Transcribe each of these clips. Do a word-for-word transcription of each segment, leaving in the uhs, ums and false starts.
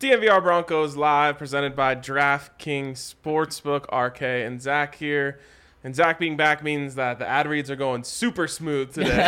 D N V R Broncos live, presented by DraftKings Sportsbook. R K and Zach here. And Zach being back means that the ad reads are going super smooth today.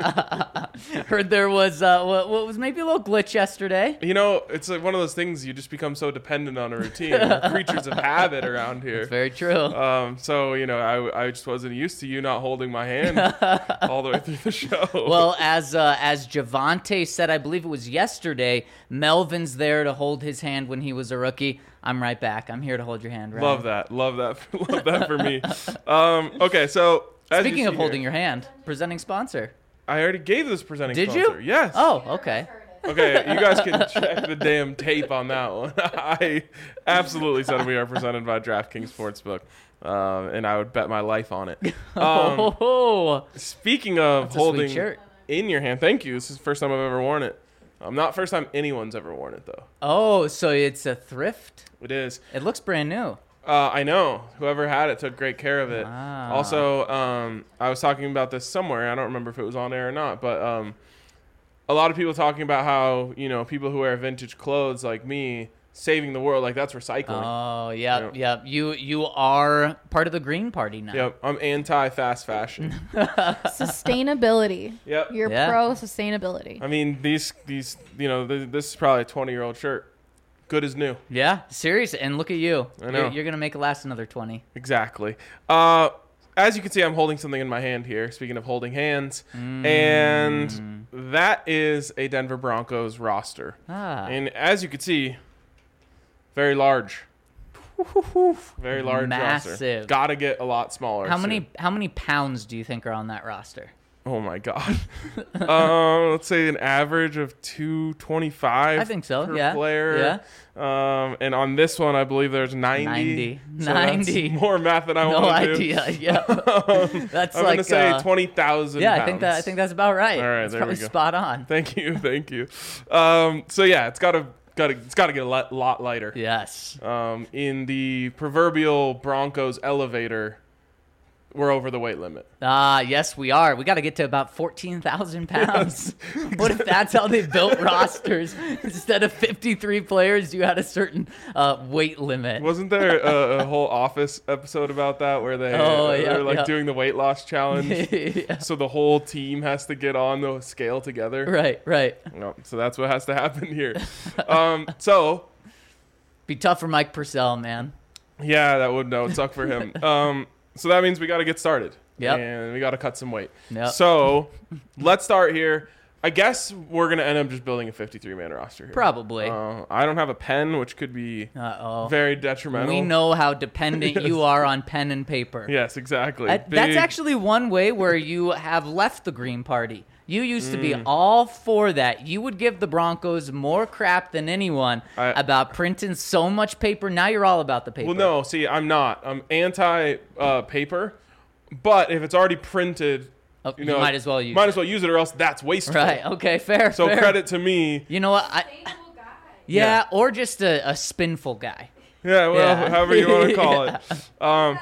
Heard there was uh, what, what was maybe a little glitch yesterday. You know, it's like one of those things you just become so dependent on a routine. We're creatures of habit around here. It's very true. Um, so, you know, I, I just wasn't used to you not holding my hand all the way through the show. Well, as uh, as Javonte said, I believe it was yesterday, Melvin's there to hold his hand when he was a rookie. I'm right back. I'm here to hold your hand, right? Love that. Love that. Love that for me. Um, okay, so as Speaking you of see holding here, your hand, presenting sponsor. I already gave this presenting Did sponsor. you? Yes. Oh, okay. Okay, you guys can check the damn tape on that one. I absolutely said we are presented by DraftKings Sportsbook, um, and I would bet my life on it. Um, oh, speaking of that's a sweet holding shirt. in your hand, thank you. This is the first time I've ever worn it. Um, not first time anyone's ever worn it, though. Oh, so it's a thrift? It is. It looks brand new. Uh, I know. Whoever had it took great care of it. Wow. Also, um, I was talking about this somewhere. I don't remember if it was on air or not, but um, a lot of people talking about how, you know, people who wear vintage clothes like me, saving the world, like that's recycling. Oh, yeah, Yep. yeah. You you are part of the Green Party now. Yep, I'm anti-fast fashion. Sustainability. Yep. You're Yeah. pro sustainability. I mean, these, these, you know, th- this is probably a twenty-year-old shirt. Good as new. Yeah, serious. And look at you. I know. You're, you're going to make it last another twenty. Exactly. Uh, as you can see, I'm holding something in my hand here. Speaking of holding hands. Mm. And that is a Denver Broncos roster. Ah. And as you can see, very large. Very large roster. Massive. Gotta get a lot smaller. How soon. many how many pounds do you think are on that roster? Oh my god. um, let's say an average of two twenty-five. I think so, Per yeah, player. Um, and on this one, I believe there's ninety. ninety. So ninety. That's more math than I No want to do. idea. Yeah. That's I'm like gonna say uh, twenty thousand. Yeah, I think that I think that's about right. All right, That's there probably we go. spot on. Thank you, thank you. Um, so yeah, it's gotta gotta it's gotta get a lot, lot lighter. Yes. Um, in the proverbial Broncos elevator, we're over the weight limit. Ah, yes, we are. We got to get to about fourteen thousand pounds. What if that's how they built rosters? Instead of fifty-three players, you had a certain uh, weight limit. Wasn't there a, a whole Office episode about that where they Oh, uh, yeah, they're like yeah. doing the weight loss challenge? Yeah. So the whole team has to get on the scale together. Right, right. No, so that's what has to happen here. um, so Be tough for Mike Purcell, man. yeah, that would that would suck for him. Um, so that means we got to get started. Yep. And we got to cut some weight. Yep. So let's start here. I guess we're going to end up just building a fifty-three man roster here. Probably. Uh, I don't have a pen, which could be Uh-oh. very detrimental. We know how dependent you are on pen and paper. Yes, exactly. Uh, that's Big- actually one way where you have left the Green Party. You used to be Mm. all for that. You would give the Broncos more crap than anyone I- about printing so much paper. Now you're all about the paper. Well, no, see, I'm not. I'm anti uh, paper, but if it's already printed, Oh, you you know, might as well use might it. as well use it, or else that's wasteful. Right. Okay. Fair. So fair. credit to me. You know what? I, yeah, Yeah. Or just a, a spinful guy. Yeah, well, Yeah. however you want to call it. Um,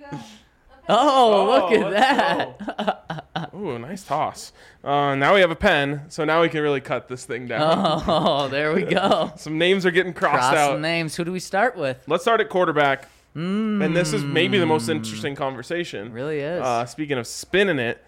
Oh, Oh, look at let's that. ooh, nice toss. Uh, now we have a pen, so now we can really cut this thing down. Oh, there we go. Some names are getting crossed Cross out. some names. Who do we start with? Let's start at quarterback. Mm, And this is maybe the most interesting conversation. really is. Uh, speaking of spinning it,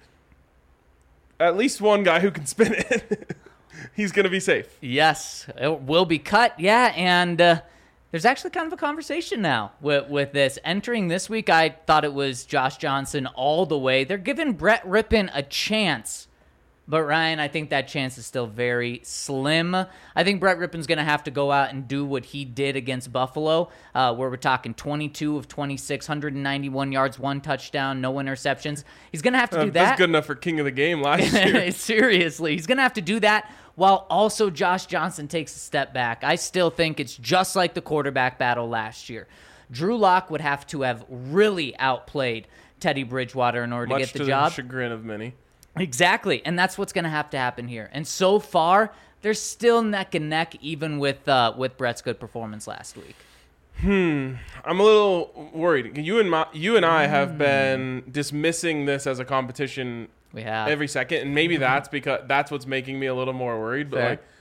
at least one guy who can spin it. He's going to be safe. Yes, it will be cut. Yeah, and uh, there's actually kind of a conversation now with, with this. Entering this week, I thought it was Josh Johnson all the way. They're giving Brett Rippon a chance. But, Ryan, I think that chance is still very slim. I think Brett Rippon's going to have to go out and do what he did against Buffalo, uh, where we're talking twenty-two of twenty-six, one hundred ninety-one yards, one touchdown, no interceptions. He's going to have to Uh, do that. That's good enough for king of the game last year. Seriously, he's going to have to do that while also Josh Johnson takes a step back. I still think it's just like the quarterback battle last year. Drew Lock would have to have really outplayed Teddy Bridgewater in order Much to get the to job. the chagrin of many. Exactly, and that's what's going to have to happen here. And so far, they're still neck and neck, even with uh, with Brett's good performance last week. Hmm. I'm a little worried. You and my, you and I Hmm. have been dismissing this as a competition We have every second, and maybe that's because that's what's making me a little more worried. But Fair. like,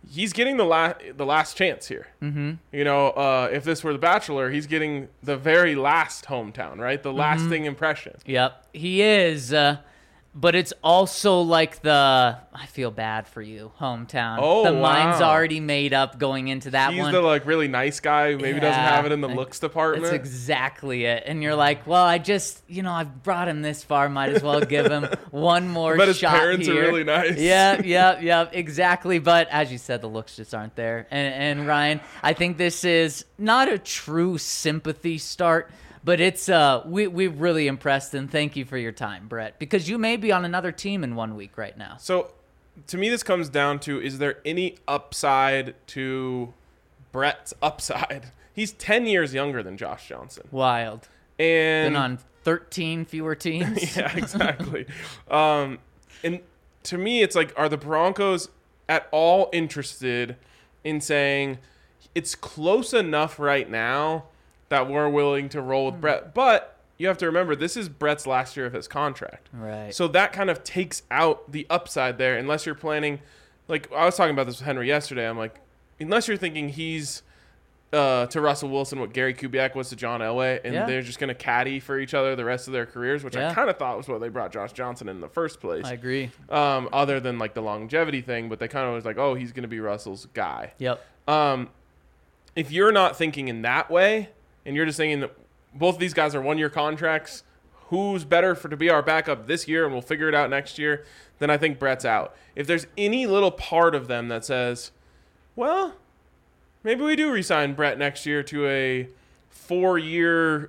he's getting the last the last chance here. Mm-hmm. You know, uh, if this were The Bachelor, he's getting the very last hometown, right? The lasting mm-hmm. impression. Yep, he is. Uh, but it's also like the I feel bad for you hometown. Oh, the wow. mind's already made up going into that he's one. He's the like really nice guy who maybe yeah, doesn't have it in the looks department. That's exactly it. And you're like, well, I just, you know, I've brought him this far. Might as well give him one more but shot his parents here. are really nice. Yeah, yeah, yeah, exactly. But as you said, the looks just aren't there. And, and Ryan, I think this is not a true sympathy start, but it's uh, we we really impressed, and thank you for your time, Brett, because you may be on another team in one week right now. So, to me, this comes down to: is there any upside to Brett's upside? He's ten years younger than Josh Johnson. Wild. And been on thirteen fewer teams. Yeah, exactly. um, and to me, it's like, are the Broncos at all interested in saying it's close enough right now that we're willing to roll with Brett? But you have to remember, this is Brett's last year of his contract. Right. So that kind of takes out the upside there, unless you're planning, like I was talking about this with Henry yesterday. I'm like, unless you're thinking he's uh, to Russell Wilson what Gary Kubiak was to John Elway, and yeah. they're just going to caddy for each other the rest of their careers, which yeah. I kind of thought was what they brought Josh Johnson in the first place. I agree. Um, other than like the longevity thing, but they kind of was like, oh, he's going to be Russell's guy. Yep. Um, if you're not thinking in that way, and you're just thinking that both of these guys are one-year contracts, who's better for to be our backup this year, and we'll figure it out next year, then I think Brett's out. If there's any little part of them that says, well, maybe we do re-sign Brett next year to a four-year,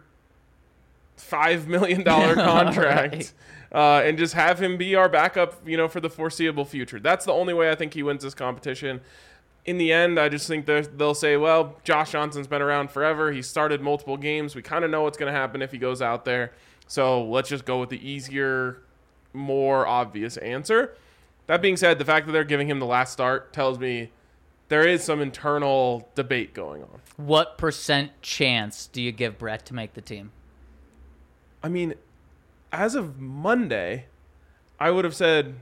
five million dollars contract, right. uh, and just have him be our backup, you know, for the foreseeable future. That's the only way I think he wins this competition. In the end, I just think they'll say, well, Josh Johnson's been around forever. He started multiple games. We kind of know what's going to happen if he goes out there. So let's just go with the easier, more obvious answer. That being said, the fact that they're giving him the last start tells me there is some internal debate going on. What percent chance do you give Brett to make the team? I mean, as of Monday, I would have said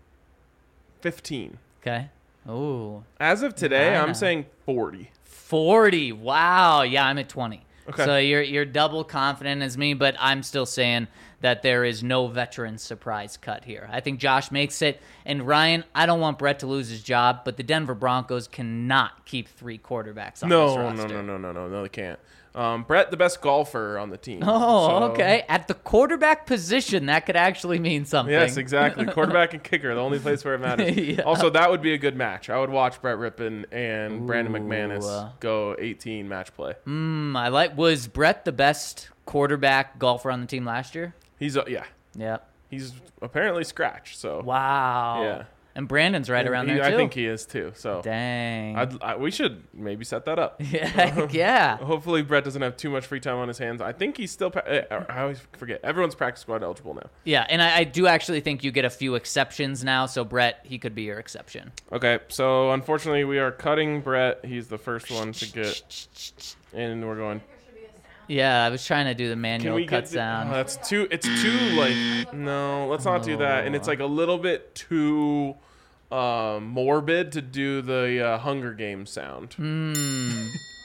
fifteen. Okay. Ooh. As of today, Kinda. I'm saying forty. forty. Wow. Yeah, I'm at twenty. Okay. So you're you're double confident as me, but I'm still saying that there is no veteran surprise cut here. I think Josh makes it. And Ryan, I don't want Brett to lose his job, but the Denver Broncos cannot keep three quarterbacks on No, this no, roster. no, no, no, no, no, they can't. Um, Brett, the best golfer on the team. Oh, so- okay. At the quarterback position, that could actually mean something. Yes, exactly. Quarterback and kicker, the only place where it matters. Yeah. Also, that would be a good match. I would watch Brett Rippon and Ooh. Brandon McManus go eighteen match play. Mm, I like. Was Brett the best quarterback golfer on the team last year? He's uh, yeah, Yeah. he's apparently scratched. So Wow. yeah, And Brandon's right around He- there I too. think he is too. So Dang. I'd, I, we should maybe set that up. yeah. yeah. Hopefully, Brett doesn't have too much free time on his hands. I think he's still. Pa- I always forget. Everyone's practice squad eligible now. Yeah, and I, I do actually think you get a few exceptions now. So Brett, he could be your exception. Okay, so unfortunately, we are cutting Brett. He's the first one to get, and we're going. Yeah, I was trying to do the Can manual we cut get the, sound. oh, that's too. It's too like. No, let's not do that. And it's like a little bit too uh, morbid to do the uh, Hunger Games sound. Hmm.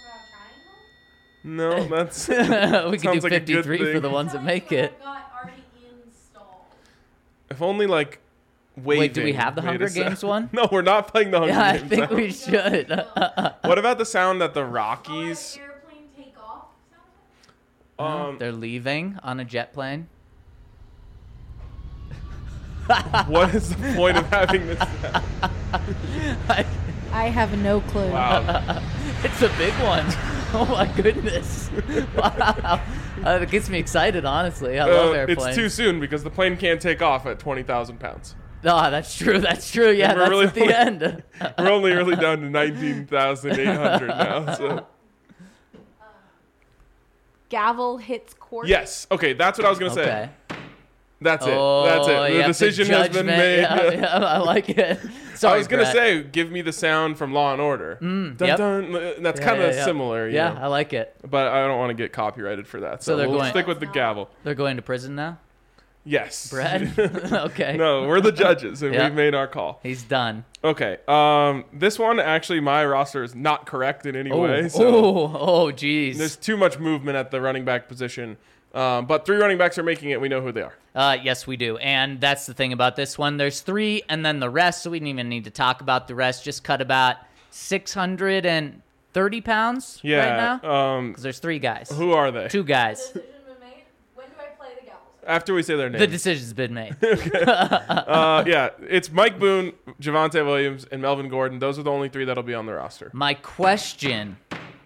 No, that's. we could do Sounds like a good fifty-three for thing. the ones that make it. If only like. Waving. Wait, do we have the made Hunger a sound. Games one? No, we're not playing the Hunger Yeah, I Games. think sound. we should. What about the sound that the Rockies? Airplane take off. Um, They're leaving on a jet plane. what is the point of having this sound? I- I have no clue. Wow. it's a big one. Oh my goodness! Wow, uh, it gets me excited. Honestly, I love Uh, airplanes. it's too soon because the plane can't take off at twenty thousand pounds. No, that's true. That's true. Yeah, we're that's really at the only- end. We're only really down to nineteen thousand eight hundred now. So Gavel hits court. yes, okay, that's what I was gonna say. Okay. That's it. Oh, That's it. you The have the decision has been judgment. made. Yeah, yeah, I like it. Sorry, I was gonna Brett. say, give me the sound from Law and Order. Mm, dun, yep. dun, that's Yeah, kind of yeah, yeah. similar. You Yeah, know? I like it. But I don't want to get copyrighted for that. So So, they're we'll going- stick with the gavel. They're going to prison now. Yes. Brett? Okay. No, we're the judges, and Yeah. we've made our call. He's done. Okay. Um, this one, actually, my roster is not correct in any Oh, way. So oh, oh, geez. there's too much movement at the running back position. Um, but three running backs are making it. We know who they are. Uh, yes, we do. And that's the thing about this one. There's three and then the rest, so we didn't even need to talk about the rest. Just cut about six hundred thirty pounds right Yeah. now. Um, Because there's three guys. who are they? Two guys. Decision been made? When do I play the Gavels? After we say their The names. decision's been made. uh, yeah, it's Mike Boone, Javonte Williams, and Melvin Gordon. Those are the only three that'll be on the roster. My question,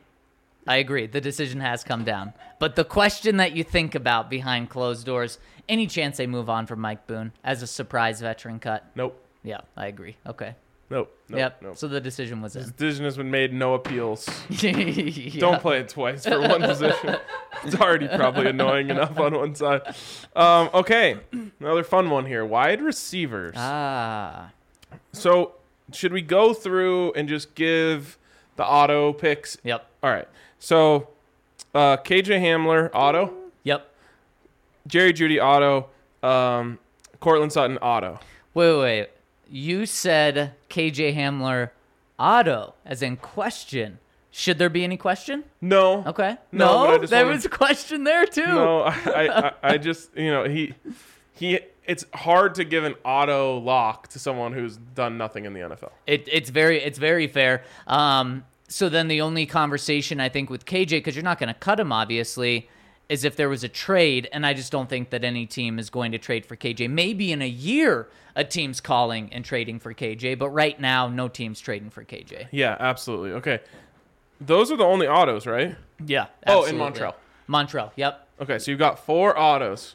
I agree, the decision has come down. But the question that you think about behind closed doors, any chance they move on from Mike Boone as a surprise veteran cut? Nope. Yeah, I agree. Okay. Nope. Nope. yep. Nope. So the decision was This in. decision has been made. No appeals. Yeah. Don't play it twice for one position. It's already probably annoying enough on one side. Um, okay, another fun one here. Wide receivers. Ah. So should we go through and just give the auto picks? Yep. All right. So uh, K J Hamler, auto. Yep. Jerry Jeudy, auto. Um, Cortland Sutton, auto. Wait, wait, wait. You said K J Hamler auto, as in question. Should there be any question? No. Okay. No, No, but I just there wanna- was a question there too. No, I, I, I just, you know, he, he, it's hard to give an auto lock to someone who's done nothing in the N F L. It, it's very, it's very fair. Um, so then the only conversation I think with K J, because you're not going to cut him, obviously, is if there was a trade, and I just don't think that any team is going to trade for K J. Maybe in a year, a team's calling and trading for K J, but right now, no team's trading for K J. Yeah, absolutely. Okay. Those are the only autos, right? Yeah. Oh, in absolutely. Montreal. Montreal. Yep. Okay, so you've got four autos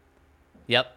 Yep.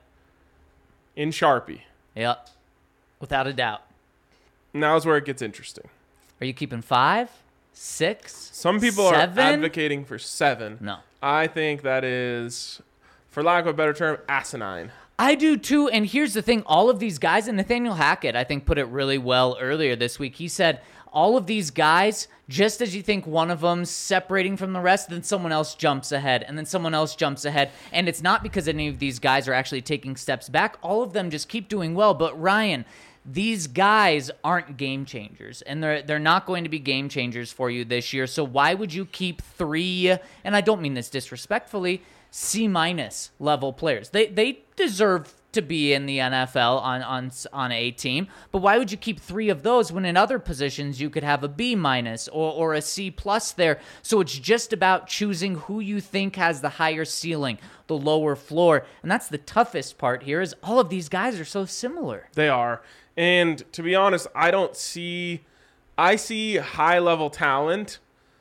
in Sharpie. Yep. Without a doubt. Now's where it gets interesting. Are you keeping five, six? Some people seven? are advocating for seven. No. I think that is, for lack of a better term, asinine. I do too, and here's the thing. All of these guys, and Nathaniel Hackett, I think, put it really well earlier this week. He said, all of these guys, just as you think one of them's separating from the rest, then someone else jumps ahead, and then someone else jumps ahead. And it's not because any of these guys are actually taking steps back. All of them just keep doing well. But Ryan, these guys aren't game changers, and they're they're not going to be game changers for you this year. So why would you keep three, and I don't mean this disrespectfully, C minus level players? They they deserve to be in the N F L on on on a team, but why would you keep three of those when in other positions you could have a B minus or or a C plus there? So it's just about choosing who you think has the higher ceiling, the lower floor, and that's the toughest part here. Is all of these guys are so similar. They are. And to be honest, I don't see, I see high level talent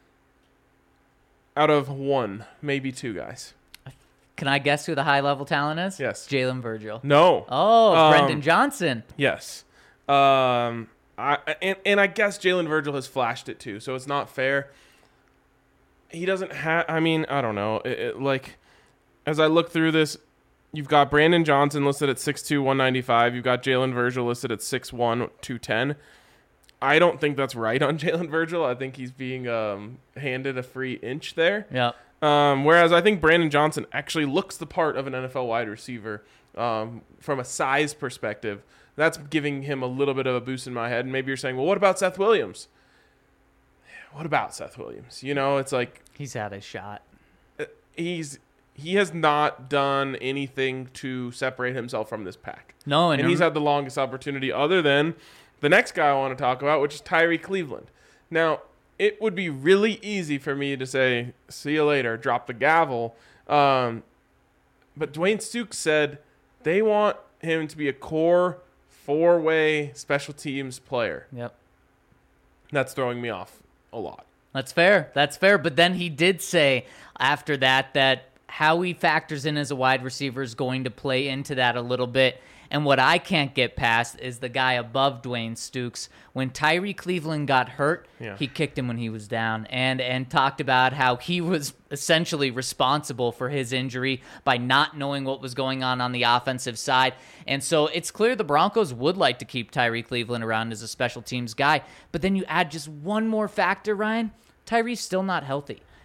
out of one, maybe two guys. Can I guess who the high level talent is? Yes. Jalen Virgil. No. Oh, Um, Brendan Johnson. Yes. Um, I and, and I guess Jalen Virgil has flashed it too, so it's not fair. He doesn't have, I mean, I don't know. It, it, like, as I look through this, you've got Brandon Johnson listed at six two, one ninety-five. You've got Jalen Virgil listed at six one, two ten. I don't think that's right on Jalen Virgil. I think he's being um, handed a free inch there. Yep. Um, whereas I think Brandon Johnson actually looks the part of an N F L wide receiver um, from a size perspective. That's giving him a little bit of a boost in my head. And maybe you're saying, well, what about Seth Williams? What about Seth Williams? You know, it's like He's had a shot. he's he has not done anything to separate himself from this pack. No, and, And he's had the longest opportunity other than the next guy I want to talk about, which is Tyree Cleveland. Now, it would be really easy for me to say, see you later, drop the gavel. Um, but Dwayne Stukes said they want him to be a core four-way special teams player. Yep. That's throwing me off a lot. That's fair. That's fair. But then he did say after that that how he factors in as a wide receiver is going to play into that a little bit. And what I can't get past is the guy above Dwayne Stukes. When Tyree Cleveland got hurt, Yeah. he kicked him when he was down and, and talked about how he was essentially responsible for his injury by not knowing what was going on on the offensive side. And so it's clear the Broncos would like to keep Tyree Cleveland around as a special teams guy. But then you add just one more factor, Ryan. Tyree's still not healthy.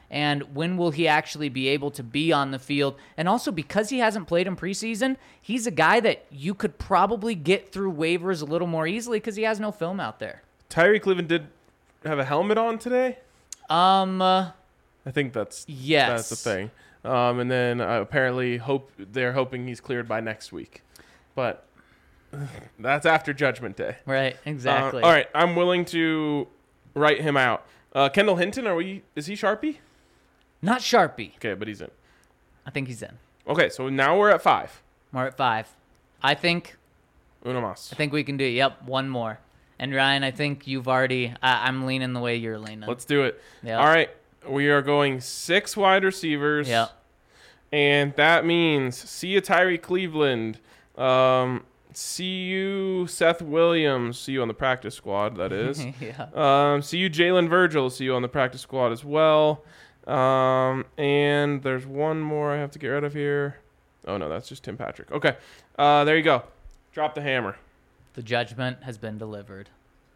And when will he actually be able to be on the field? And also, because he hasn't played in preseason, he's a guy that you could probably get through waivers a little more easily because he has no film out there. Tyree Cleveland did have a helmet on today. Um, uh, I think that's yes. that's the thing. Um, and then uh, apparently hope they're hoping he's cleared by next week, but that's after Judgment Day. Right, exactly. Uh, all right, I'm willing to write him out. Uh, Kendall Hinton, are we? Is he Sharpie? Not Sharpie. Okay, but he's in. I think he's in. Okay, so now we're at five. We're at five. I think. Uno más. I think we can do it. Yep, one more. And Ryan, I think you've already. I, I'm leaning the way you're leaning. Let's do it. Yep. All right, we are going six wide receivers. Yep. And that means see you Tyree Cleveland. Um, see you Seth Williams. See you on the practice squad, that is. yeah. Um, see you Jalen Virgil. See you on the practice squad as well. Um, and there's one more I have to get rid of here. Oh, no, that's just Tim Patrick. Okay. Uh, there you go. Drop the hammer. The judgment has been delivered.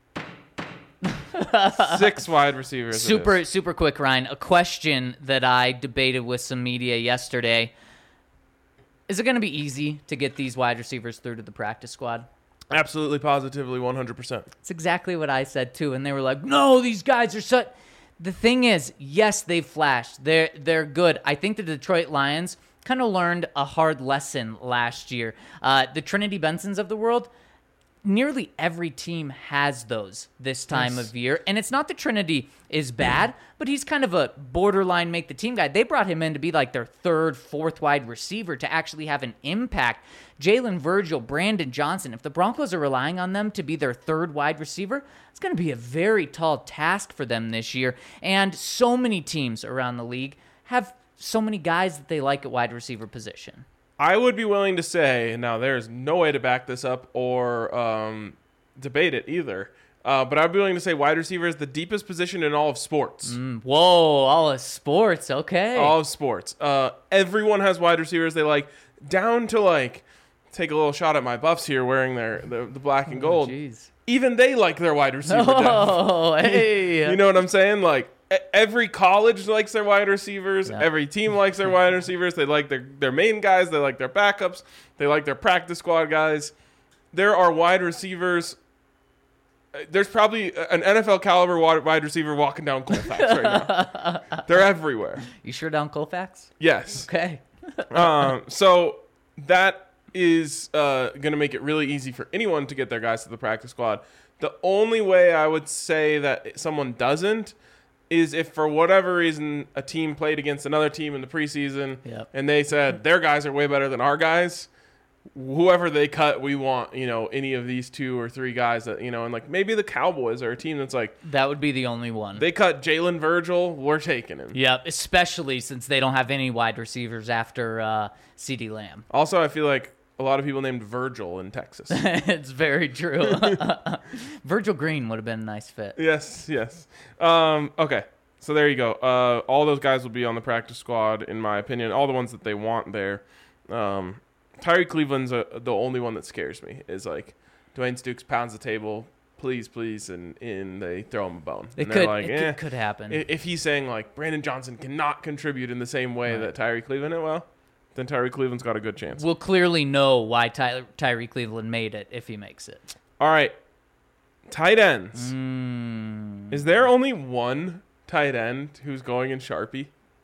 Six wide receivers. it Super, is. super quick, Ryan. A question that I debated with some media yesterday. Is it going to be easy to get these wide receivers through to the practice squad? Absolutely, positively, one hundred percent. It's exactly what I said, too. And they were like, no, these guys are such... The thing is, yes, they've flashed. They're, they're good. I think the Detroit Lions kind of learned a hard lesson last year. Uh, the Trinity Bensons of the world... Nearly every team has those this time Yes. of year. And it's not that Trinity is bad, but he's kind of a borderline make-the-team guy. They brought him in to be like their third, fourth wide receiver to actually have an impact. Jalen Virgil, Brandon Johnson, if the Broncos are relying on them to be their third wide receiver, it's going to be a very tall task for them this year. And so many teams around the league have so many guys that they like at wide receiver position. I would be willing to say, now there's no way to back this up or um, debate it either, uh, but I'd be willing to say wide receiver is the deepest position in all of sports. Mm, whoa, all of sports, okay. All of sports. Uh, everyone has wide receivers they like, down to like, take a little shot at my Buffs here wearing their the, the black and gold. Oh, jeez. Even they like their wide receiver depth. Oh, hey. You know what I'm saying? Like, every college likes their wide receivers. Yeah. Every team likes their wide receivers. They like their, their main guys. They like their backups. They like their practice squad guys. There are wide receivers. There's probably an N F L caliber wide receiver walking down Colfax right now. They're everywhere. You sure down Colfax? Yes. Okay. um, so that is uh, going to make it really easy for anyone to get their guys to the practice squad. The only way I would say that someone doesn't is if for whatever reason a team played against another team in the preseason Yep. and they said their guys are way better than our guys, whoever they cut, we want, you know, any of these two or three guys that, you know, and like maybe the Cowboys are a team that's like, That would be the only one. they cut Jalen Virgil, we're taking him. Yep, especially since they don't have any wide receivers after uh, CeeDee Lamb. Also, I feel like a lot of people named Virgil in Texas. It's very true. Virgil Green would have been a nice fit. Yes, yes. Um, okay, so there you go. Uh, all those guys will be on the practice squad, in my opinion. All the ones that they want there. Um, Tyree Cleveland's a, the only one that scares me. Is like Dwayne Stukes pounds the table, please, please, and, and they throw him a bone. It and could, like, it eh. could, could happen. I- If he's saying like Brandon Johnson cannot contribute in the same way Right. that Tyree Cleveland did, well, then Tyree Cleveland's got a good chance. We'll clearly know why Ty- Tyree Cleveland made it if he makes it. All right, tight ends. Mm, Is there only one tight end who's going in Sharpie?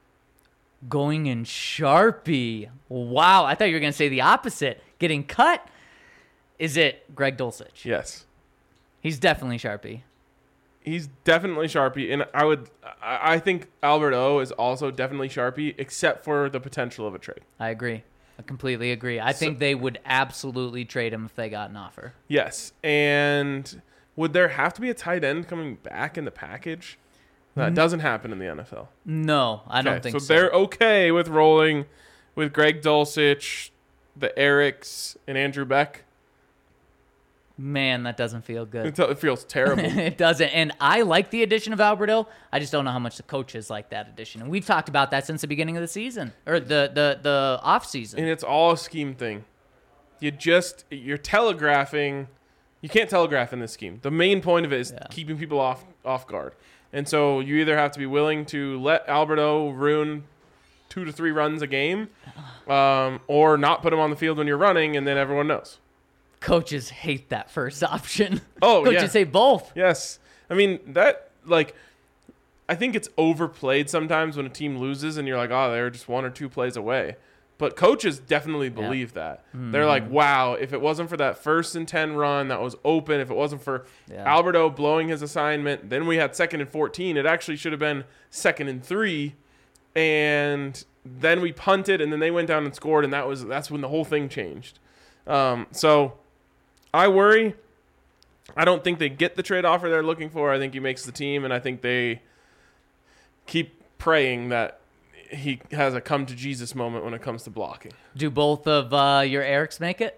going in Sharpie. Wow, I thought you were going to say the opposite. Getting cut. Is it Greg Dulcich? Yes. He's definitely Sharpie. He's definitely Sharpie, and I would, I I think Albert O is also definitely Sharpie, except for the potential of a trade. I agree. I completely agree. I think they would absolutely trade him if they got an offer. Yes, and would there have to be a tight end coming back in the package? That doesn't happen in the N F L. No, I don't Okay, think so. so. They're okay with rolling with Greg Dulcich, the Erics, and Andrew Beck. Man, that doesn't feel good. It, it feels terrible. It doesn't. And I like the addition of Alberto. I just don't know how much the coaches like that addition. And we've talked about that since the beginning of the season or the the the off season. And it's all a scheme thing. You just you're telegraphing. You can't telegraph in this scheme. The main point of it is Yeah. keeping people off off guard. And so you either have to be willing to let Alberto ruin two to three runs a game, um, or not put him on the field when you're running, and then everyone knows. Coaches hate that first option. Oh, Coaches yeah. say both. Yes. I mean, that, like, I think it's overplayed sometimes when a team loses and you're like, oh, they're just one or two plays away. But coaches definitely believe yeah. that. Mm-hmm. They're like, wow, if it wasn't for that first and ten run that was open, if it wasn't for yeah. Alberto blowing his assignment, then we had second and fourteen. It actually should have been second and three. And then we punted, and then they went down and scored, and that was that's when the whole thing changed. Um, so I worry. I don't think they get the trade offer they're looking for. I think he makes the team, and I think they keep praying that he has a come to Jesus moment when it comes to blocking. Do both of uh, your Erics make it?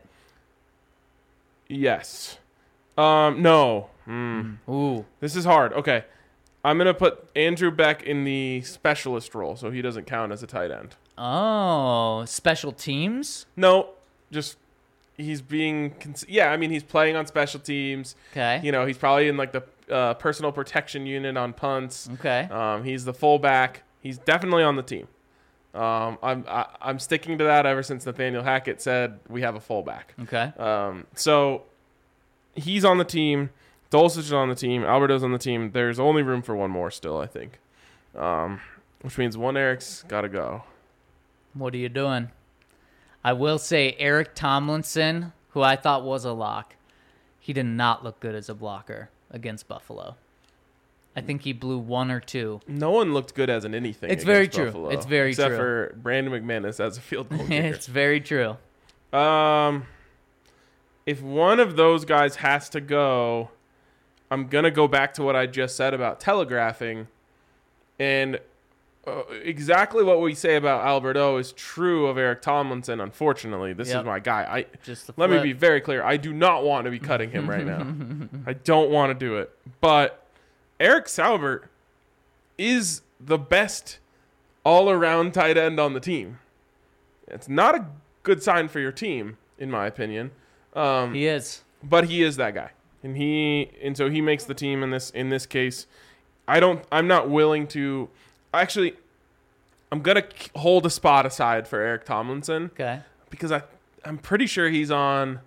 Yes. Um, no. Mm. Ooh. This is hard. Okay. I'm going to put Andrew Beck in the specialist role, so he doesn't count as a tight end. Oh, special teams? No, just he's being cons- – yeah, I mean, he's playing on special teams. Okay. You know, he's probably in, like, the uh, personal protection unit on punts. Okay. Um, he's the fullback. He's definitely on the team. Um, I'm I, I'm sticking to that ever since Nathaniel Hackett said we have a fullback. Okay. Um, so he's on the team. Dulcich is on the team. Alberto's on the team. There's only room for one more still, I think. Um, which means one Eric's got to go. What are you doing? I will say Eric Tomlinson, who I thought was a lock, he did not look good as a blocker against Buffalo. I think he blew one or two. No one looked good as an anything. It's very true. Buffalo, it's very except true. Except for Brandon McManus as a field goal kicker. It's very true. Um, if one of those guys has to go, I'm going to go back to what I just said about telegraphing. And uh, exactly what we say about Alberto is true of Eric Tomlinson, unfortunately. This yep. is my guy. I Just Let me be very clear. I do not want to be cutting him right now. I don't want to do it. But Eric Saubert is the best all-around tight end on the team. It's not a good sign for your team, in my opinion. Um, he is, but he is that guy, and he and so he makes the team in this in this case. I don't. I'm not willing to. Actually, I'm gonna hold a spot aside for Eric Tomlinson. Okay. Because I I'm pretty sure he's on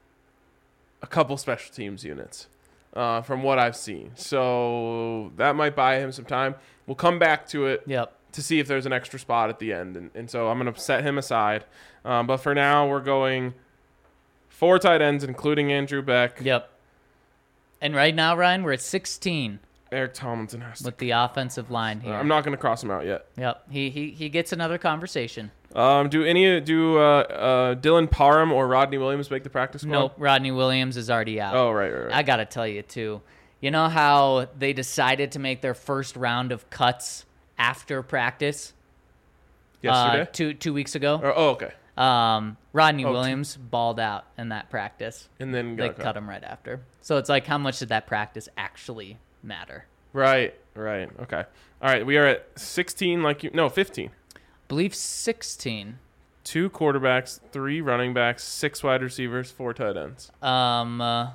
a couple special teams units. Uh, from what I've seen. So that might buy him some time. We'll come back to it yep. to see if there's an extra spot at the end. And, and so I'm going to set him aside. Um, but for now, we're going four tight ends, including Andrew Beck. Yep. And right now, Ryan, we're at sixteen. Eric Tomlinson has to. With the offensive line here. Uh, I'm not going to cross him out yet. Yep. He he he gets another conversation. Um, do any do uh, uh, Dylan Parham or Rodney Williams make the practice squad? Nope. Rodney Williams is already out. Oh, right, right, right. I got to tell you, too. You know how they decided to make their first round of cuts after practice? Yesterday? Uh, two, two weeks ago. Or, oh, okay. Um, Rodney Oh, Williams balled out in that practice. And then they got cut cut him right after. So it's like, how much did that practice actually matter? Right, right. Okay. All right, we are at sixteen, like you. No, fifteen. I believe sixteen. Two quarterbacks, three running backs, six wide receivers, four tight ends. Um, uh,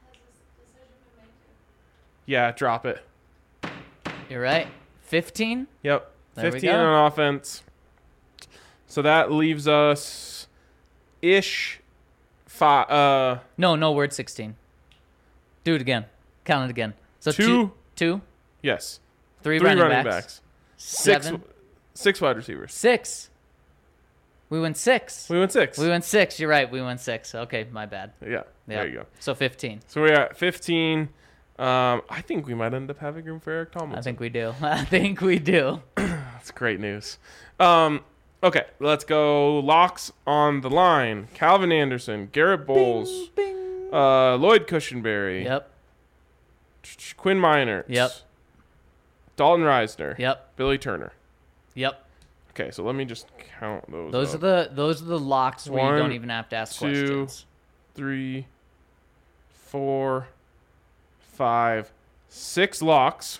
yeah, drop it. You're right. fifteen? Yep. There we fifteen go. on offense. So that leaves us ish five. Uh, No, no, we're at sixteen. Do it again. Count it again. So Two. two, two, yes. three, Three running, running backs, backs. Six, seven, six wide receivers. six. We went six. We went six. We went six. You're right. We went six. Okay, my bad. yeah, Yeah. there you go. So fifteen. So we're at fifteen. Um, I think we might end up having room for Eric Tomlinson. I think we do. I think we do. That's great news. Um, okay, let's go. Locks on the line. Calvin Anderson, Garrett Bowles, Bing, bing. Uh, Lloyd Cushenberry, Yep. Quinn Miners, Yep. Dalton Reisner, Yep. Billy Turner. Yep. Okay, so let me just count those. Those up. are the those are the locks where One, you don't even have to ask two, questions. Three, four, five, six locks.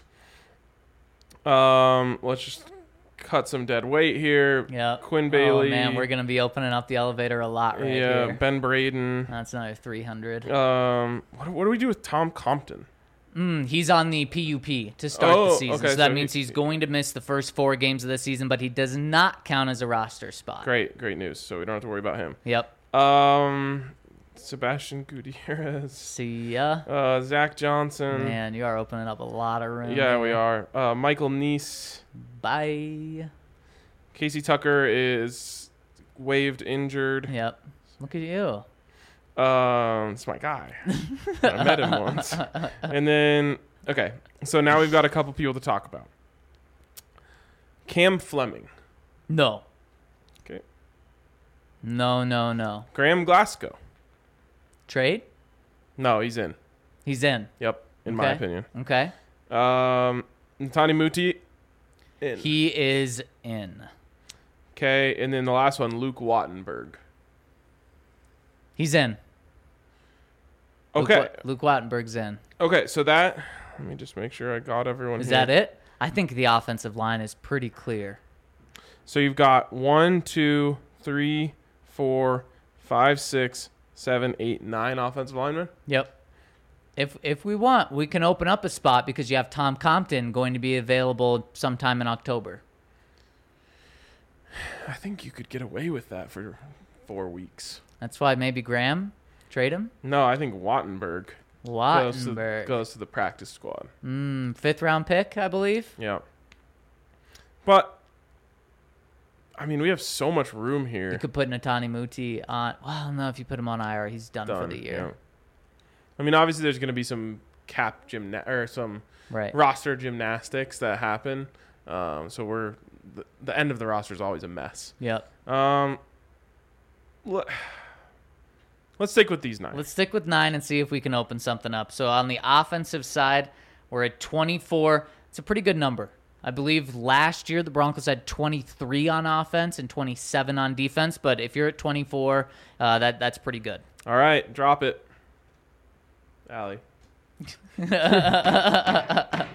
Um, let's just cut some dead weight here. Yeah. Quinn Bailey. Oh man, we're gonna be opening up the elevator a lot right yeah, here. Ben Braden. That's another three hundred. Um, what, what do we do with Tom Compton? Mm, he's on the P U P to start Oh, the season, okay, so that so means he- he's going to miss the first four games of the season, but he does not count as a roster spot. Great, great news. So we don't have to worry about him. Yep. Um, Sebastian Gutierrez, See ya. uh, Zach Johnson. Man, you are opening up a lot of room. Yeah, we here. are. Uh, Michael Neese. Bye. Casey Tucker is waived, injured. Yep. Look at you. Um, it's my guy. I met him once. And then, okay, so now we've got a couple people to talk about. Cam Fleming. No. Okay. No, no, no. Graham Glasgow. Trade? No, he's in. He's in. Yep, in my Okay. opinion. Okay. Um, Ntani Muti. In. He is in. Okay, and then the last one, Luke Wattenberg. He's in. Okay. Luke, Luke Wattenberg's in. Okay, so that, let me just make sure I got everyone Is here. that it? I think the offensive line is pretty clear. So you've got one, two, three, four, five, six, seven, eight, nine offensive linemen. Yep. If if we want, we can open up a spot because you have Tom Compton going to be available sometime in October. I think you could get away with that for four weeks. That's why maybe Graham, trade him. No, I think Wattenberg goes to, Wattenberg, goes to the practice squad. mm, fifth round pick, I believe. Yeah. But, I mean, we have so much room here. You could put Ntani Muti on. Well, no, if you put him on I R, he's done, Done, for the year. yeah. I mean, obviously, there's going to be some cap gymna- or some Right. roster gymnastics that happen. Um, so we're the, the end of the roster is always a mess. Yep. Um, let, let's stick with these nine. Let's stick with nine and see if we can open something up. So on the offensive side, we're at twenty-four. It's a pretty good number. I believe last year the Broncos had twenty-three on offense and twenty-seven on defense. But if you're at twenty-four, uh, that that's pretty good. All right, drop it, Allie. First time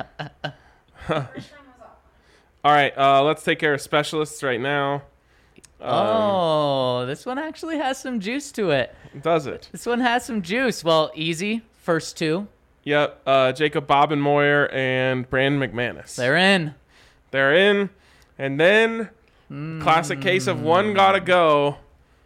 was off. All right, uh, let's take care of specialists right now. Um, oh, this one actually has some juice to it. Does it? This one has some juice. Well, easy. First two. Yep. Uh, Jacob Bobenmoyer and Brandon McManus. They're in. They're in. And then, classic case of one gotta go.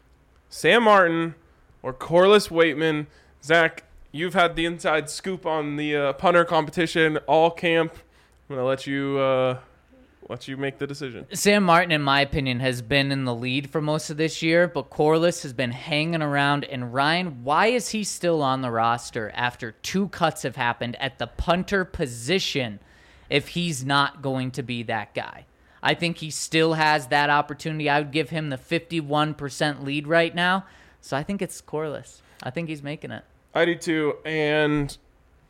Sam Martin or Corliss Waitman. Zach, you've had the inside scoop on the uh, punter competition all camp. I'm gonna let you uh, let you make the decision. Sam Martin, in my opinion, has been in the lead for most of this year, but Corliss has been hanging around. And Ryan, why is he still on the roster after two cuts have happened at the punter position if he's not going to be that guy? I think he still has that opportunity. I would give him the fifty-one percent lead right now. So I think it's Corliss. I think he's making it. I do too. And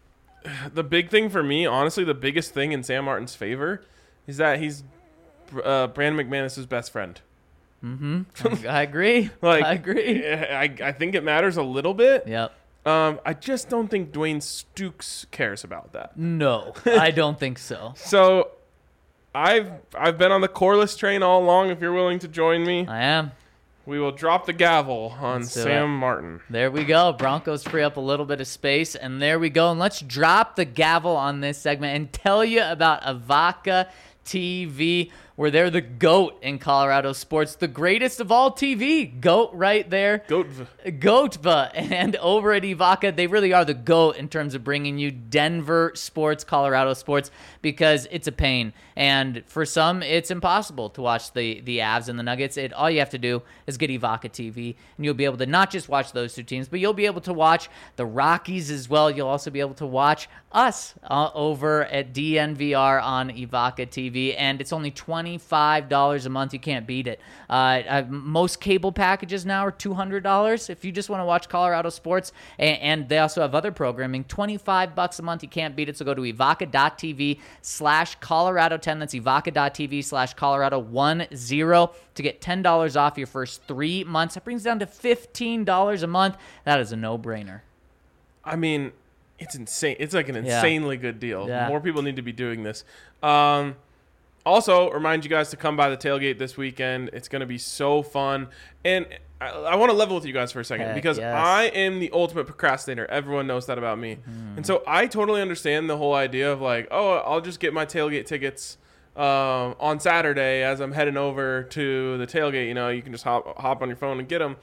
the big thing for me, honestly, the biggest thing in Sam Martin's favor is that he's uh, Brandon McManus' best friend. Mm-hmm. I agree. Like, I agree. I, I think it matters a little bit. Yep. Um, I just don't think Dwayne Stukes cares about that. No, I don't think so. So, I've I've been on the Corliss train all along. If you're willing to join me, I am. we will drop the gavel on Let's do Sam it. Martin. There we go. Broncos free up a little bit of space, and there we go. And let's drop the gavel on this segment and tell you about Avaca T V, where they're the GOAT in Colorado sports, the greatest of all T V. GOAT right there. Goat. Goatva. And over at Evaca, they really are the GOAT in terms of bringing you Denver sports, Colorado sports, because it's a pain. And for some, it's impossible to watch the, the Avs and the Nuggets. It, all you have to do is get Evaca T V, and you'll be able to not just watch those two teams, but you'll be able to watch the Rockies as well. You'll also be able to watch us uh, over at D N V R on Evaca T V, and it's only twenty-five dollars a month. You can't beat it. Uh, uh, most cable packages now are two hundred dollars if you just want to watch Colorado sports, and, and they also have other programming. twenty-five bucks a month. You can't beat it. So go to evaca.tv slash Colorado ten. That's evaca.tv slash Colorado ten to get ten dollars off your first three months. That brings it down to fifteen dollars a month. That is a no-brainer. I mean, it's insane. It's like an Yeah. insanely good deal. Yeah. More people need to be doing this. Um, Also, remind you guys to come by the tailgate this weekend. It's going to be so fun. And I, I want to level with you guys for a second Heck because yes. I am the ultimate procrastinator. Everyone knows that about me. Mm-hmm. And so I totally understand the whole idea of like, oh, I'll just get my tailgate tickets um, on Saturday as I'm heading over to the tailgate. You know, you can just hop, hop on your phone and get them.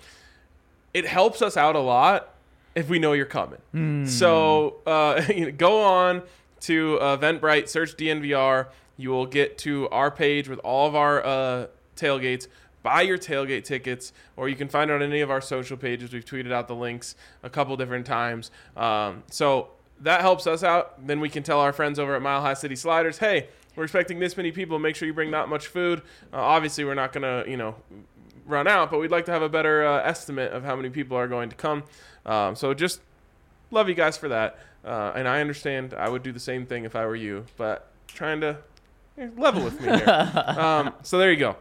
It helps us out a lot if we know you're coming. Mm. So uh, you know, go on to uh, Eventbrite, search D N V R. You will get to our page with all of our uh, tailgates. Buy your tailgate tickets, or you can find it on any of our social pages. We've tweeted out the links a couple different times. Um, so that helps us out. Then we can tell our friends over at Mile High City Sliders, hey, we're expecting this many people. Make sure you bring not much food. Uh, obviously, we're not going to, you know, run out, but we'd like to have a better uh, estimate of how many people are going to come. Um, so just love you guys for that. Uh, and I understand I would do the same thing if I were you, but trying to eh, level with me here. um, so there you go.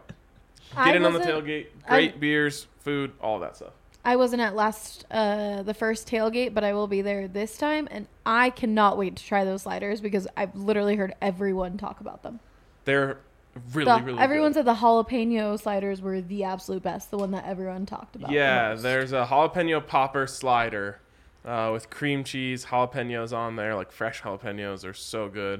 I Get in on the wasn't- tailgate. Great I- beers, food, all that stuff. I wasn't at last uh, the first tailgate, but I will be there this time, and I cannot wait to try those sliders because I've literally heard everyone talk about them. They're really, The- really everyone good. said the jalapeno sliders were the absolute best, the one that everyone talked about. the Yeah, most. there's a jalapeno popper slider uh, with cream cheese, jalapenos on there, like fresh jalapenos are so good.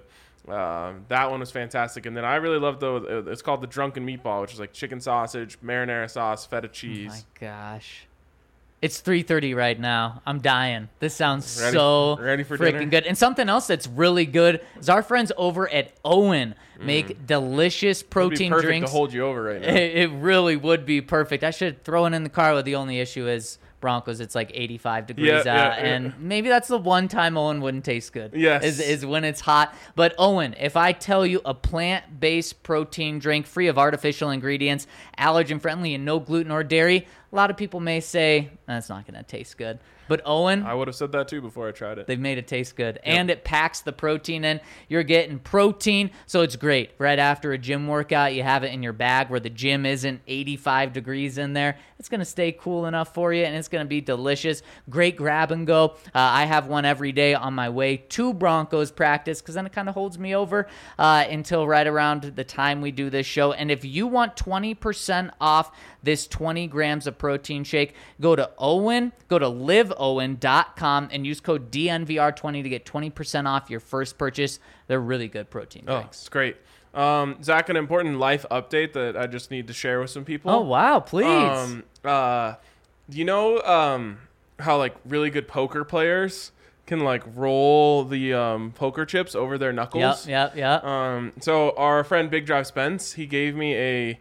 Um, that one was fantastic. And then I really love the, it's called the Drunken Meatball, which is like chicken sausage, marinara sauce, feta Oh my cheese. gosh. It's three thirty right now. I'm dying. This sounds Ready- so ready for freaking dinner? good. And something else that's really good is our friends over at Owen make delicious It'd be protein perfect drinks. to hold you over right now. It, it really would be perfect. I should throw it in the car, but the only issue is Broncos. It's like eighty-five degrees Yeah, out, yeah, yeah. and maybe that's the one time Owen wouldn't taste good. Yes. is is when it's hot. But Owen, if I tell you a plant-based protein drink free of artificial ingredients, allergen-friendly, and no gluten or dairy, a lot of people may say that's not going to taste good. But Owen, I would have said that too before I tried it. they've made it taste good. And it packs the protein in. You're getting protein, so it's great. Right after a gym workout, you have it in your bag where the gym isn't eighty-five degrees in there. It's going to stay cool enough for you, and it's going to be delicious. Great grab and go. Uh, I have one every day on my way to Broncos practice because then it kind of holds me over uh, until right around the time we do this show. And if you want twenty percent off this twenty grams of protein shake, go to Owen, go to live owen dot com and use code D N V R twenty to get twenty percent off your first purchase. They're really good protein Oh, drinks. it's great. Um, Zach, an important life update that I just need to share with some people. Oh, wow, please. Um, uh, you know um, how like really good poker players can like roll the um, poker chips over their yep, knuckles? yep, yep. Um, so our friend Big Drive Spence, he gave me a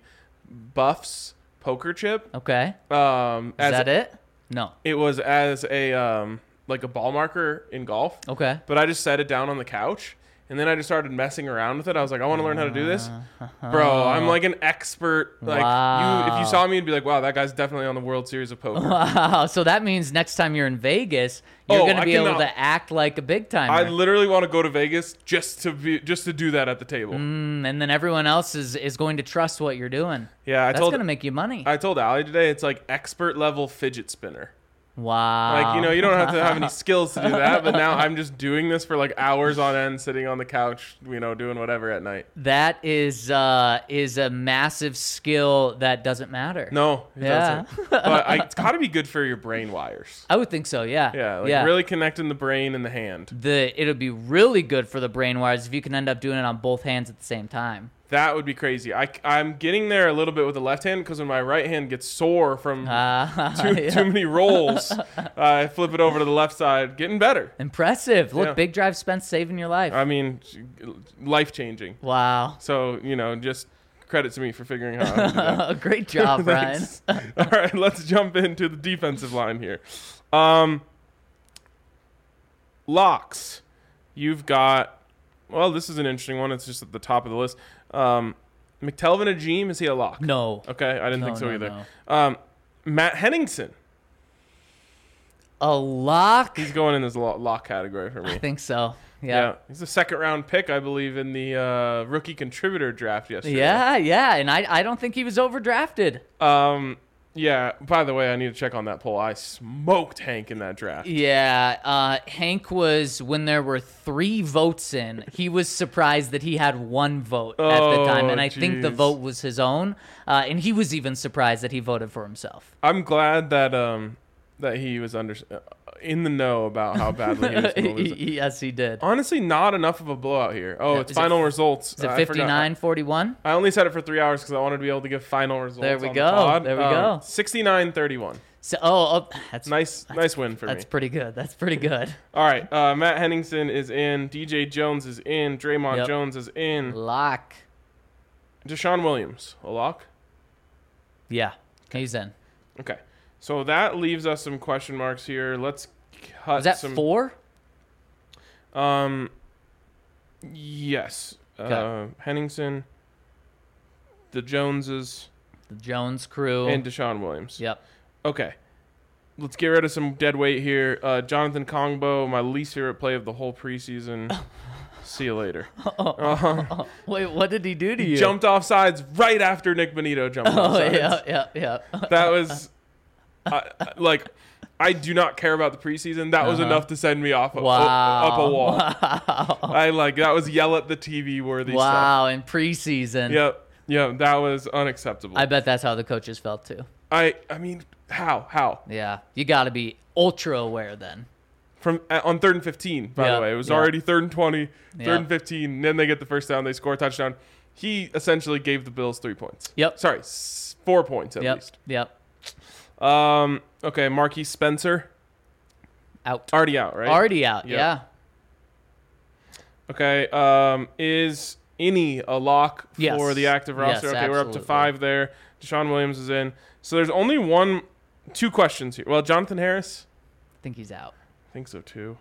Buffs poker chip. Okay. Um, Is as that it? No. it was as a um, like a ball marker in golf. Okay. But I just set it down on the couch, and then I just started messing around with it. I was like, I want to learn how to do this. Bro, I'm like an expert. Like you, if Wow. you saw me, you'd be like, wow, that guy's definitely on the World Series of Poker. Wow. So that means next time you're in Vegas, you're Oh, going to I be able cannot- to act like a big timer. I literally want to go to Vegas just to be just to do that at the table. Mm, and then everyone else is, is going to trust what you're doing. Yeah, I That's told going to make you money. I told Allie today it's like expert level fidget spinner. Wow. Like, you know, you don't have to have any skills to do that, but now I'm just doing this for like hours on end, sitting on the couch, you know, doing whatever at night. That is uh, is a massive skill that doesn't matter. No, it Yeah. doesn't. But I, it's got to be good for your brain wires. I would think so. Yeah. Yeah, like yeah. really connecting the brain and the hand. The it'll be really good for the brain wires if you can end up doing it on both hands at the same time. That would be crazy. I, I'm getting there a little bit with the left hand because when my right hand gets sore from Uh, too, yeah. too many rolls, I flip it over to the left side, getting better. Impressive. Look, Yeah. Big Drive Spence saving your life. I mean, life changing. Wow. So, you know, just credit to me for figuring out how to do that. Great job, Brian. Thanks. All right, let's jump into the defensive line here. Um, locks. You've got, well, this is an interesting one. It's just at the top of the list. Um, McTelvin Ajim, is he a lock? No. Okay, I didn't No, think so no, either. no. Um, Matt Henningsen. A lock? He's going in this lo- lock category for I me. think so. Yeah. Yeah. He's a second round pick, I believe, in the uh, rookie contributor draft yesterday. Yeah, yeah. And I, I don't think he was overdrafted. Um, Yeah. By the way, I need to check on that poll. I smoked Hank in that draft. Yeah, uh, Hank was, when there were three votes in, he was surprised that he had one vote at the time, and I think the jeez. vote was his own, uh, and he was even surprised that he voted for himself. I'm glad that um that he was under uh, in the know about how badly he was going to lose. it. Yes, he did. Honestly, not enough of a blowout here. Oh, Yeah, it's is it- final results. Is it Uh, I forgot. fifty-nine forty-one? I only set it for three hours because I wanted to be able to give final results. There we on go. The pod. There we Um, go. sixty-nine thirty-one. So, oh, oh that's Nice, nice win for That's me. pretty good. That's pretty good. All right, uh, Matt Henningsen is in. D J Jones is in. Draymond Yep. Jones is in. Lock. Deshaun Williams, a lock. Yeah, he's in. Okay, so that leaves us some question marks here. Let's cut Was that some. four? Um, yes. Okay. Uh, Henningsen, the Joneses, The Jones crew. and Deshaun Williams. Yep. Okay. Let's get rid of some dead weight here. Uh, Jonathan Kongbo, my least favorite play of the whole preseason. See you later. Uh, Wait, what did he do to you? jumped off sides right after Nick Bonito jumped off Oh, sides. yeah, yeah, yeah. That was I I- like I do not care about the preseason. That was Uh-huh. enough to send me off a, Wow. up a wall. Wow. I like that was yell at the T V worthy stuff. Wow, in preseason. Yep. Yep. That was unacceptable. I I, bet that's how the coaches felt too. I mean, how? How? Yeah. You got to be ultra aware then. From uh, on third and fifteen, by Yeah, the way. It was yeah. already third and twenty, third Yeah. and fifteen, and then they get the first down, they score a touchdown. He essentially gave the Bills three points. Yep. Sorry, s- four points at Yep. least. Yep. Um, okay, Marquise Spencer, Out. already out, right? Already out. Yep. Yeah. Okay, um, is any a lock for Yes. the active roster? Yes, okay, we're up to absolutely. five there. Deshaun Williams is in. So there's only one, two questions here. Well, Jonathan Harris, I think he's out. I think so too.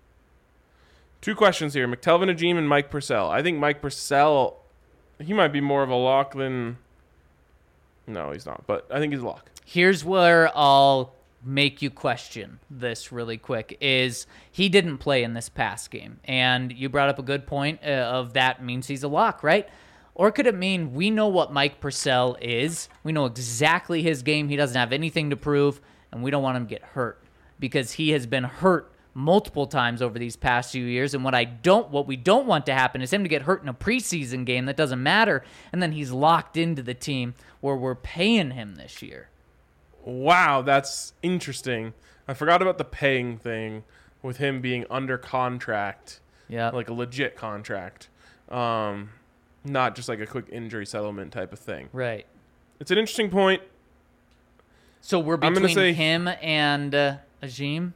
Two questions here. McTelvin Ajim and Mike Purcell. I think Mike Purcell, he might be more of a lock than... No, he's not, but I think he's a lock. Here's where I'll make you question this really quick is he didn't play in this past game, and you brought up a good point uh, of that means he's a lock, right? Or could it mean we know what Mike Purcell is, we know exactly his game, he doesn't have anything to prove, and we don't want him to get hurt because he has been hurt multiple times over these past few years, and what I don't what we don't want to happen is him to get hurt in a preseason game that doesn't matter, and then he's locked into the team where we're paying him this year. Wow, that's interesting. I forgot about the paying thing with him being under contract, Yeah. like a legit contract, um, not just like a quick injury settlement type of thing. Right. It's an interesting point. So we're I'm gonna between say- him and uh, Ajim?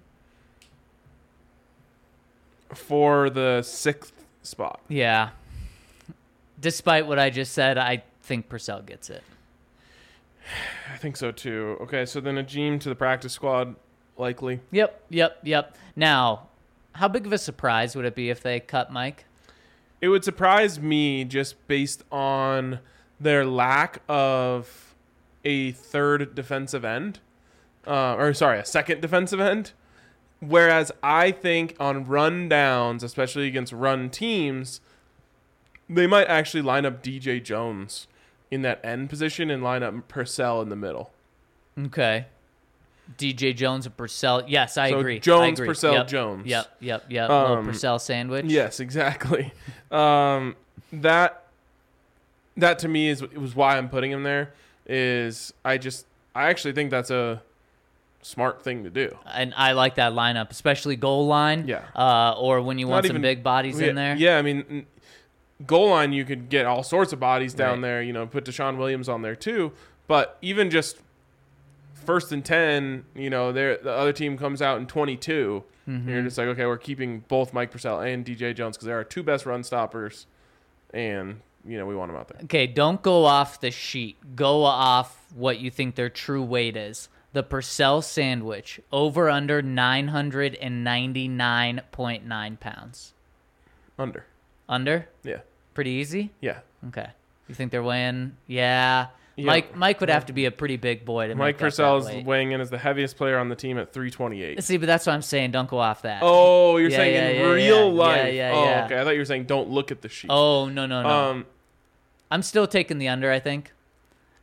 For the sixth spot. Yeah. Despite what I just said, I think Purcell gets it. I think so too. Okay, so then Ajim to the practice squad, likely. Yep, yep, yep. Now, how big of a surprise would it be if they cut Mike? It would surprise me just based on their lack of a third defensive end. Uh, or, sorry, a second defensive end. Whereas I think on run downs, especially against run teams, they might actually line up D J Jones in that end position and line up Purcell in the middle. Okay. D J Jones and Purcell. Yes, I So agree. Jones, I agree. Purcell, Yep, Jones. Yep, yep, yep. Little Um, Purcell sandwich. Yes, exactly. um, that that to me is it was why I'm putting him there. Is I just I actually think that's a smart thing to do. And I like that lineup, especially goal line. Yeah. Uh, or when you want Not some even- big bodies yeah, in there. Yeah, I mean, n- goal line you could get all sorts of bodies down Right. there. You know, put Deshaun Williams on there too. But even just first and ten, you know, there the other team comes out in twenty-two. Mm-hmm. You're just like, okay, we're keeping both Mike Purcell and D J Jones because they're our two best run stoppers, and you know we want them out there. Okay, don't go off the sheet. Go off what you think their true weight is. The Purcell sandwich, over under nine hundred ninety-nine point nine pounds. Under, Under? yeah, Pretty easy? yeah. Okay. You think they're weighing? Yeah. Yeah. Mike Mike would have to be a pretty big boy to Mike make up Purcell that is weight. weighing in as the heaviest player on the team at three twenty-eight. See, but that's what I'm saying. Don't go off that. Oh, you're Yeah, saying yeah, in yeah, real yeah. life? Yeah, yeah, oh, yeah. okay. I thought you were saying don't look at the sheet. Oh, no, no, no. Um, I'm still taking the under, I think.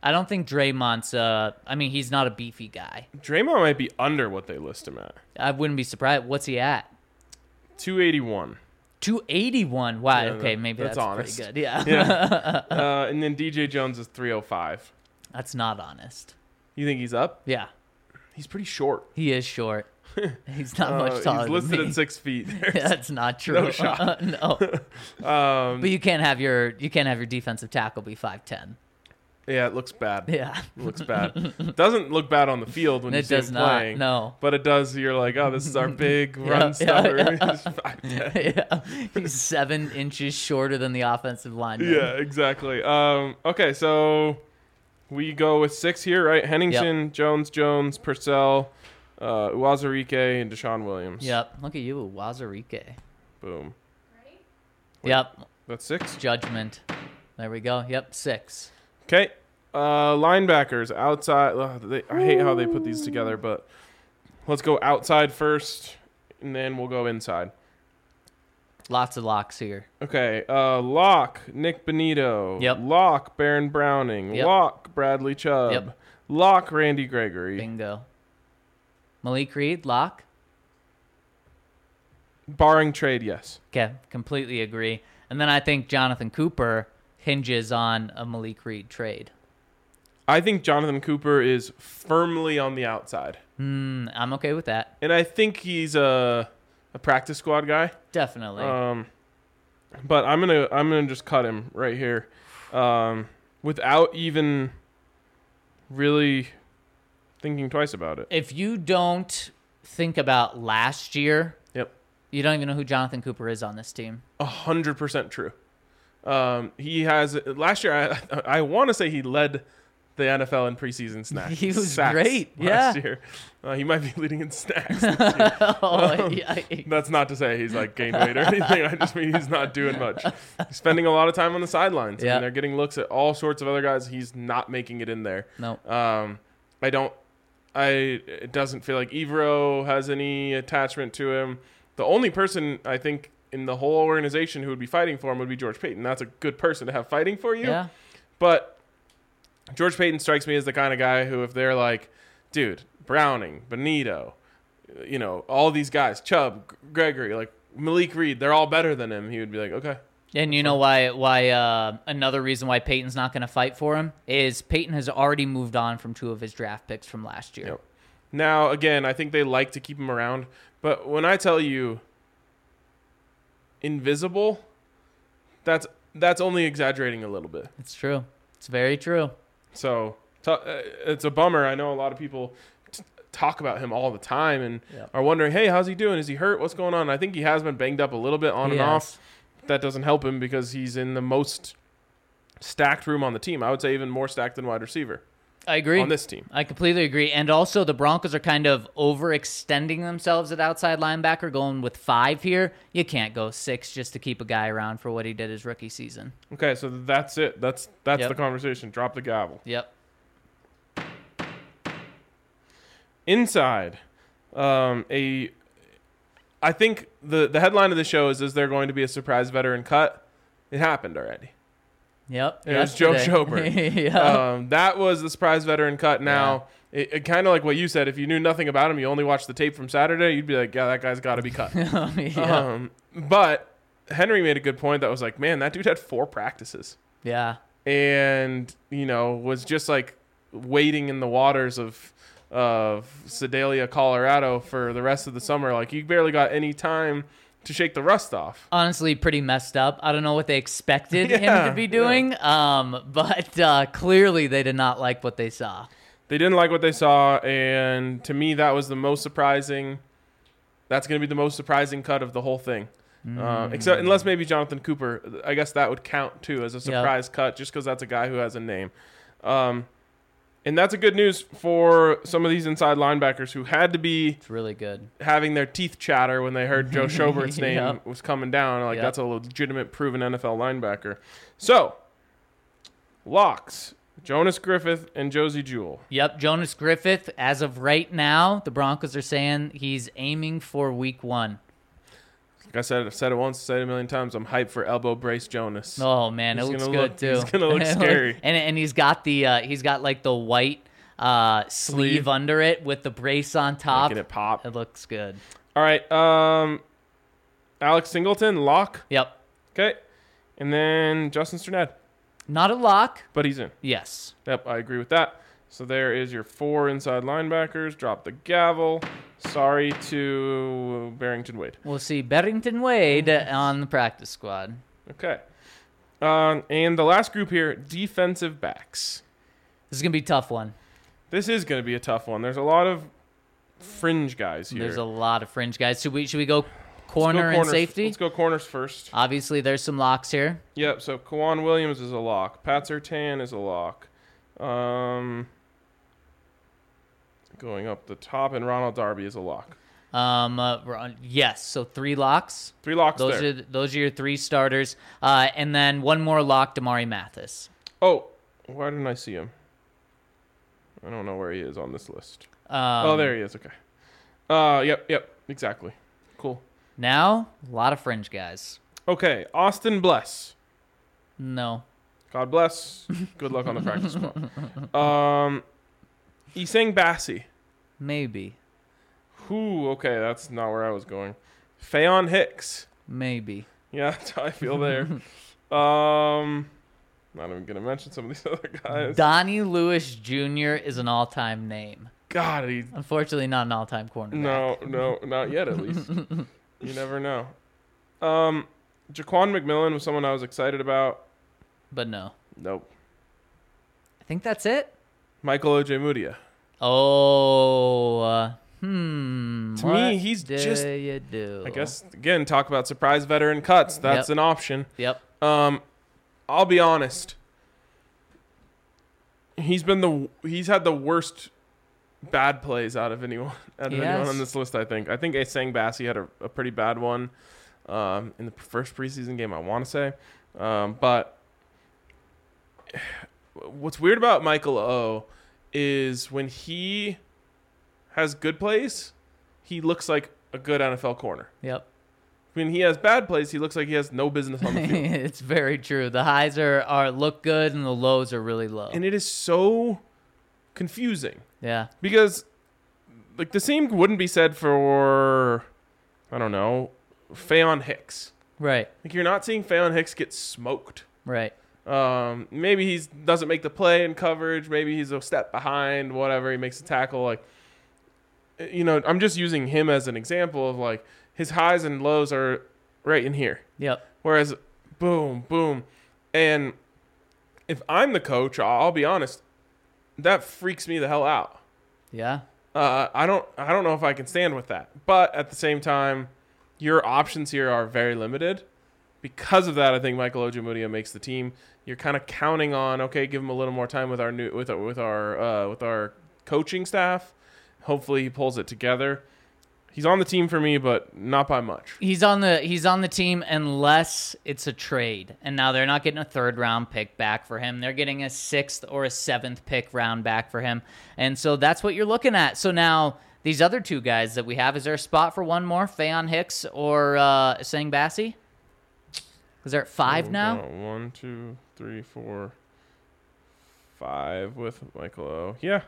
I don't think Draymond's. Uh, I mean, he's not a beefy guy. Draymond might be under what they list him at. I wouldn't be surprised. What's he at? two eighty-one. two eighty-one. Wow. Yeah, okay, that- maybe that's that's, honest. pretty good. Yeah. Yeah. uh, and then D J Jones is three oh five. That's not honest. You think he's up? Yeah. He's pretty short. He is short. He's not Uh, much taller he's listed than me. at six feet. That's not true. No shot. no. um, But you can't have your you can't have your defensive tackle be five ten. yeah, it looks bad. Yeah. It looks bad. Doesn't look bad on the field when you It see does him not. playing. No. But it does. You're like, oh, this is our big Yeah, run yeah, stuffer. yeah. He's five ten. yeah. He's seven inches shorter than the offensive lineman. Yeah, exactly. Um, okay, so we go with six here, right? Henningsen, Jones, Jones, Purcell, uh, Uwazurike, and Deshaun Williams. Yep. Look at you, Wazarike. Boom. Yep. That's six. Judgment. There we go. Yep. Six. Okay. Uh, linebackers outside. Ugh, they, I hate how they put these together, but let's go outside first, and then we'll go inside. Lots of locks here. Okay. Uh, lock Nick Benito. Yep. Lock Baron Browning. Yep. Lock Bradley Chubb. Yep. Lock Randy Gregory. Bingo. Malik Reed, lock. Barring trade, yes. Okay, completely agree. And then I think Jonathan Cooper hinges on a Malik Reed trade. I think Jonathan Cooper is firmly on the outside, Hmm, I'm okay with that. and I think he's a a practice squad guy. Definitely. Um, but I'm gonna I'm gonna just cut him right here, um, without even really thinking twice about it. if you don't think about last year, Yep, you don't even know who Jonathan Cooper is on this team. a hundred percent true. Um, he has last year. I I want to say he led the N F L in preseason snacks. He was sacks great, last yeah. year. Uh, he might be leading in snacks. This year. oh, Um, yeah. That's not to say he's like gained weight or anything. I just mean he's not doing much. He's spending a lot of time on the sidelines. I Yeah. mean, they're getting looks at all sorts of other guys. He's not making it in there. No. Um, I don't. I. It doesn't feel like Evero has any attachment to him. The only person I think in the whole organization who would be fighting for him would be George Payton. That's a good person to have fighting for you. Yeah. But George Payton strikes me as the kind of guy who, if they're like, dude, Browning, Benito, you know, all these guys, Chubb, G- Gregory, like Malik Reed, they're all better than him. He would be like, okay. And you know why? Why? Uh, another reason why Peyton's not going to fight for him is Peyton has already moved on from two of his draft picks from last year. Yep. Now, again, I think they like to keep him around. But when I tell you invisible, that's that's only exaggerating a little bit. It's true. It's very true. So t- uh, it's a bummer. I know a lot of people t- talk about him all the time and Yep. are wondering, hey, how's he doing? Is he hurt? What's going on? I think he has been banged up a little bit on and Yes. off. That doesn't help him because he's in the most stacked room on the team. I would say even more stacked than wide receiver I agree. on this team. I completely agree. And also, the Broncos are kind of overextending themselves at outside linebacker, going with five here. You can't go six just to keep a guy around for what he did his rookie season. Okay, so that's it. That's that's Yep. the conversation. Drop the gavel. Yep. Inside, um, a, I think the the headline of the show is: Is there going to be a surprise veteran cut? It happened already. Yep. It was Joe yesterday. Schobert. yeah. Um, that was the surprise veteran cut. Now, it, it kind of like what you said. If you knew nothing about him, you only watched the tape from Saturday, you'd be like, yeah, that guy's got to be cut. yeah. um, but Henry made a good point that was like, man, that dude had four practices yeah. and, you know, was just like waiting in the waters of of Sedalia, Colorado for the rest of the summer. Like, you barely got any time to shake the rust off. Honestly, pretty messed up. I don't know what they expected him Yeah, to be doing, um, but uh, clearly they did not like what they saw. They didn't like what they saw, and to me, that was the most surprising. That's going to be the most surprising cut of the whole thing. Uh, except unless maybe Jonathan Cooper. I guess that would count, too, as a surprise cut, just because that's a guy who has a name. Um, and that's a good news for some of these inside linebackers who had to be It's really good. having their teeth chatter when they heard Joe Schobert's name Yep. was coming down. Like, Yep. that's a legitimate, proven N F L linebacker. So, locks, Jonas Griffith and Josie Jewell. Yep, Jonas Griffith, as of right now, the Broncos are saying he's aiming for week one. Like I said, I've said it once, said it a million times. I'm hyped for elbow brace Jonas. Oh man, He's it looks gonna good look- too. he's gonna look scary. and and he's got the uh, he's got like the white uh, sleeve, Sleeve. under it with the brace on top. Making it pop. It looks good. All right. Um, Alex Singleton, lock. Yep. Okay. And then Justin Strnad, Not a lock. but he's in. Yes. Yep, I agree with that. So there is your four inside linebackers. Drop the gavel. Sorry to Barrington Wade. We'll see Barrington Wade on the practice squad. Okay. Um, and the last group here, defensive backs. This is gonna be a tough one. This is going to be a tough one. There's a lot of fringe guys here. There's a lot of fringe guys. Should we should we go Let's go corner and corners. safety? Let's go corners first. Obviously, there's some locks here. Yep, so Kawan Williams is a lock. Pat Surtain is a lock. Um, going up the top, and Ronald Darby is a lock. Um, uh, we're on- yes, so three locks. Three locks Those there. are those are your three starters, uh, and then one more lock, Damari Mathis. Oh, why didn't I see him? I don't know where he is on this list. Um, oh, there he is. Okay. Uh, yep, yep, exactly. Cool. Now, a lot of fringe guys. Okay, Austin Bless. No, God bless. Good luck on the practice squad. Um, Isang Bassi. maybe, Whew, okay, that's not where I was going. Fayon Hicks. maybe. Yeah, that's how I feel there. um, not even gonna mention some of these other guys. Donnie Lewis Junior is an all-time name. God, he, Unfortunately, not an all-time cornerback. no, no, not yet. At least you never know. Um, Jaquan McMillan was someone I was excited about. But no. Nope. I think that's it. Michael Ojemudia. Oh, uh, hmm. To what me, he's do just- you do? I guess again, talk about surprise veteran cuts. That's Yep. an option. Yep. Um, I'll be honest. He's been the he's had the worst bad plays out of anyone out of He anyone has. on this list. I think. I think Asang Bassi had a, a pretty bad one um, in the first preseason game. I want to say, um, but what's weird about Michael O is when he has good plays, he looks like a good N F L corner. Yep. When he has bad plays, he looks like he has no business on the field. It's very true. The highs are, are look good and the lows are really low. And it is so confusing yeah. because like the same wouldn't be said for I don't know, Fayon Hicks. Right. Like you're not seeing Fayon Hicks get smoked. Right. Um, maybe he doesn't make the play in coverage. Maybe he's a step behind. Whatever. He makes a tackle. Like, you know, I'm just using him as an example of like his highs and lows are right in here. Yep. Whereas, boom, boom, and if I'm the coach, I'll be honest, that freaks me the hell out. Yeah. Uh, I don't, I don't know if I can stand with that. But at the same time, your options here are very limited. Because of that, I think Michael Ojemudia makes the team. You're kind of counting on, okay, give him a little more time with our new, with our, with our, uh, with our coaching staff. Hopefully, he pulls it together. He's on the team for me, but not by much. He's on the he's on the team unless it's a trade. And now they're not getting a third round pick back for him. They're getting a sixth or a seventh pick round back for him. And so that's what you're looking at. So now these other two guys that we have, is there a spot for one more? Fayon Hicks or uh Sang Bassi? Is there five Oh, now? no. One, two, three, four, five with Michael O. Yeah.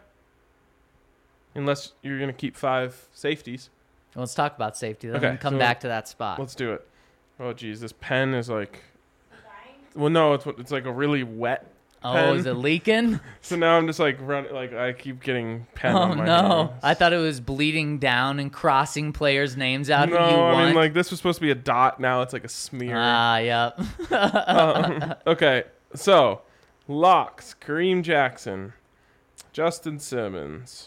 Unless you're going to keep five safeties. Well, let's talk about safety. Then Okay, we'll come so back to that spot. Let's do it. Oh, geez. This pen is like... Well, no, it's it's like a really wet Oh, pen. is it leaking? So now I'm just like running... Like, I keep getting pen Oh, on my no. hands. I thought it was bleeding down and crossing players' names out No, who you I want. mean, like, this was supposed to be a dot. Now it's like a smear. Ah, yep. Um, okay, so locks: Kareem Jackson, Justin Simmons,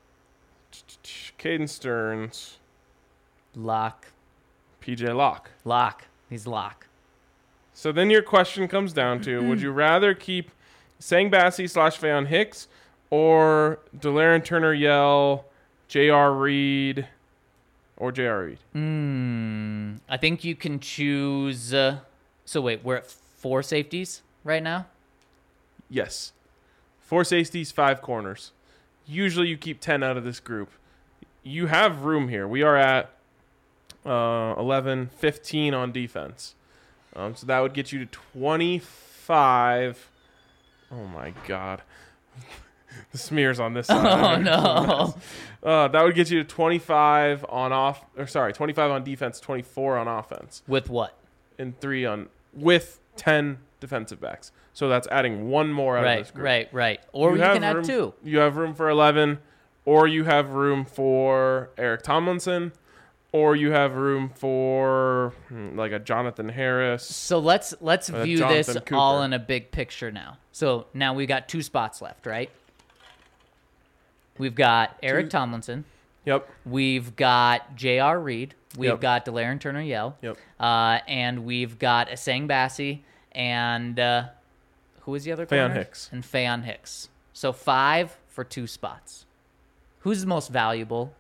Caden Stearns, Lock. P J Locke. Lock. He's lock. So then your question comes down to: would you rather keep Sang Bassi slash Fayon Hicks or Delaren Turner Yell, J R Reed, or J R Reed? Hmm. I think you can choose. Uh, so wait, we're at four safeties right now. Yes, four safeties, five corners. Usually you keep ten out of this group. You have room here. We are at uh, eleven, fifteen on defense. Um, so that would get you to twenty-five. Oh, my God. The smears on this side. Oh, no. Uh, that would get you to twenty-five on off, or sorry, twenty-five on defense, twenty-four on offense, With what? and three on with ten defensive backs. So that's adding one more out of Right, this group. right, right. Or you, have can add room, two. You have room for eleven, or you have room for Eric Tomlinson, or you have room for hmm, like a Jonathan Harris. So let's let's Uh, view Jonathan this Cooper. all in a big picture now. So now we got two spots left, right? We've got Eric Two- Tomlinson. Yep. We've got J R. Reed. We've Yep. got Delaren Turner-Yell. Yep. Uh, and we've got Asang Bassi and uh, who was the other Faion corner? Hicks. And Faion Hicks. So five for two spots. Who's the most valuable?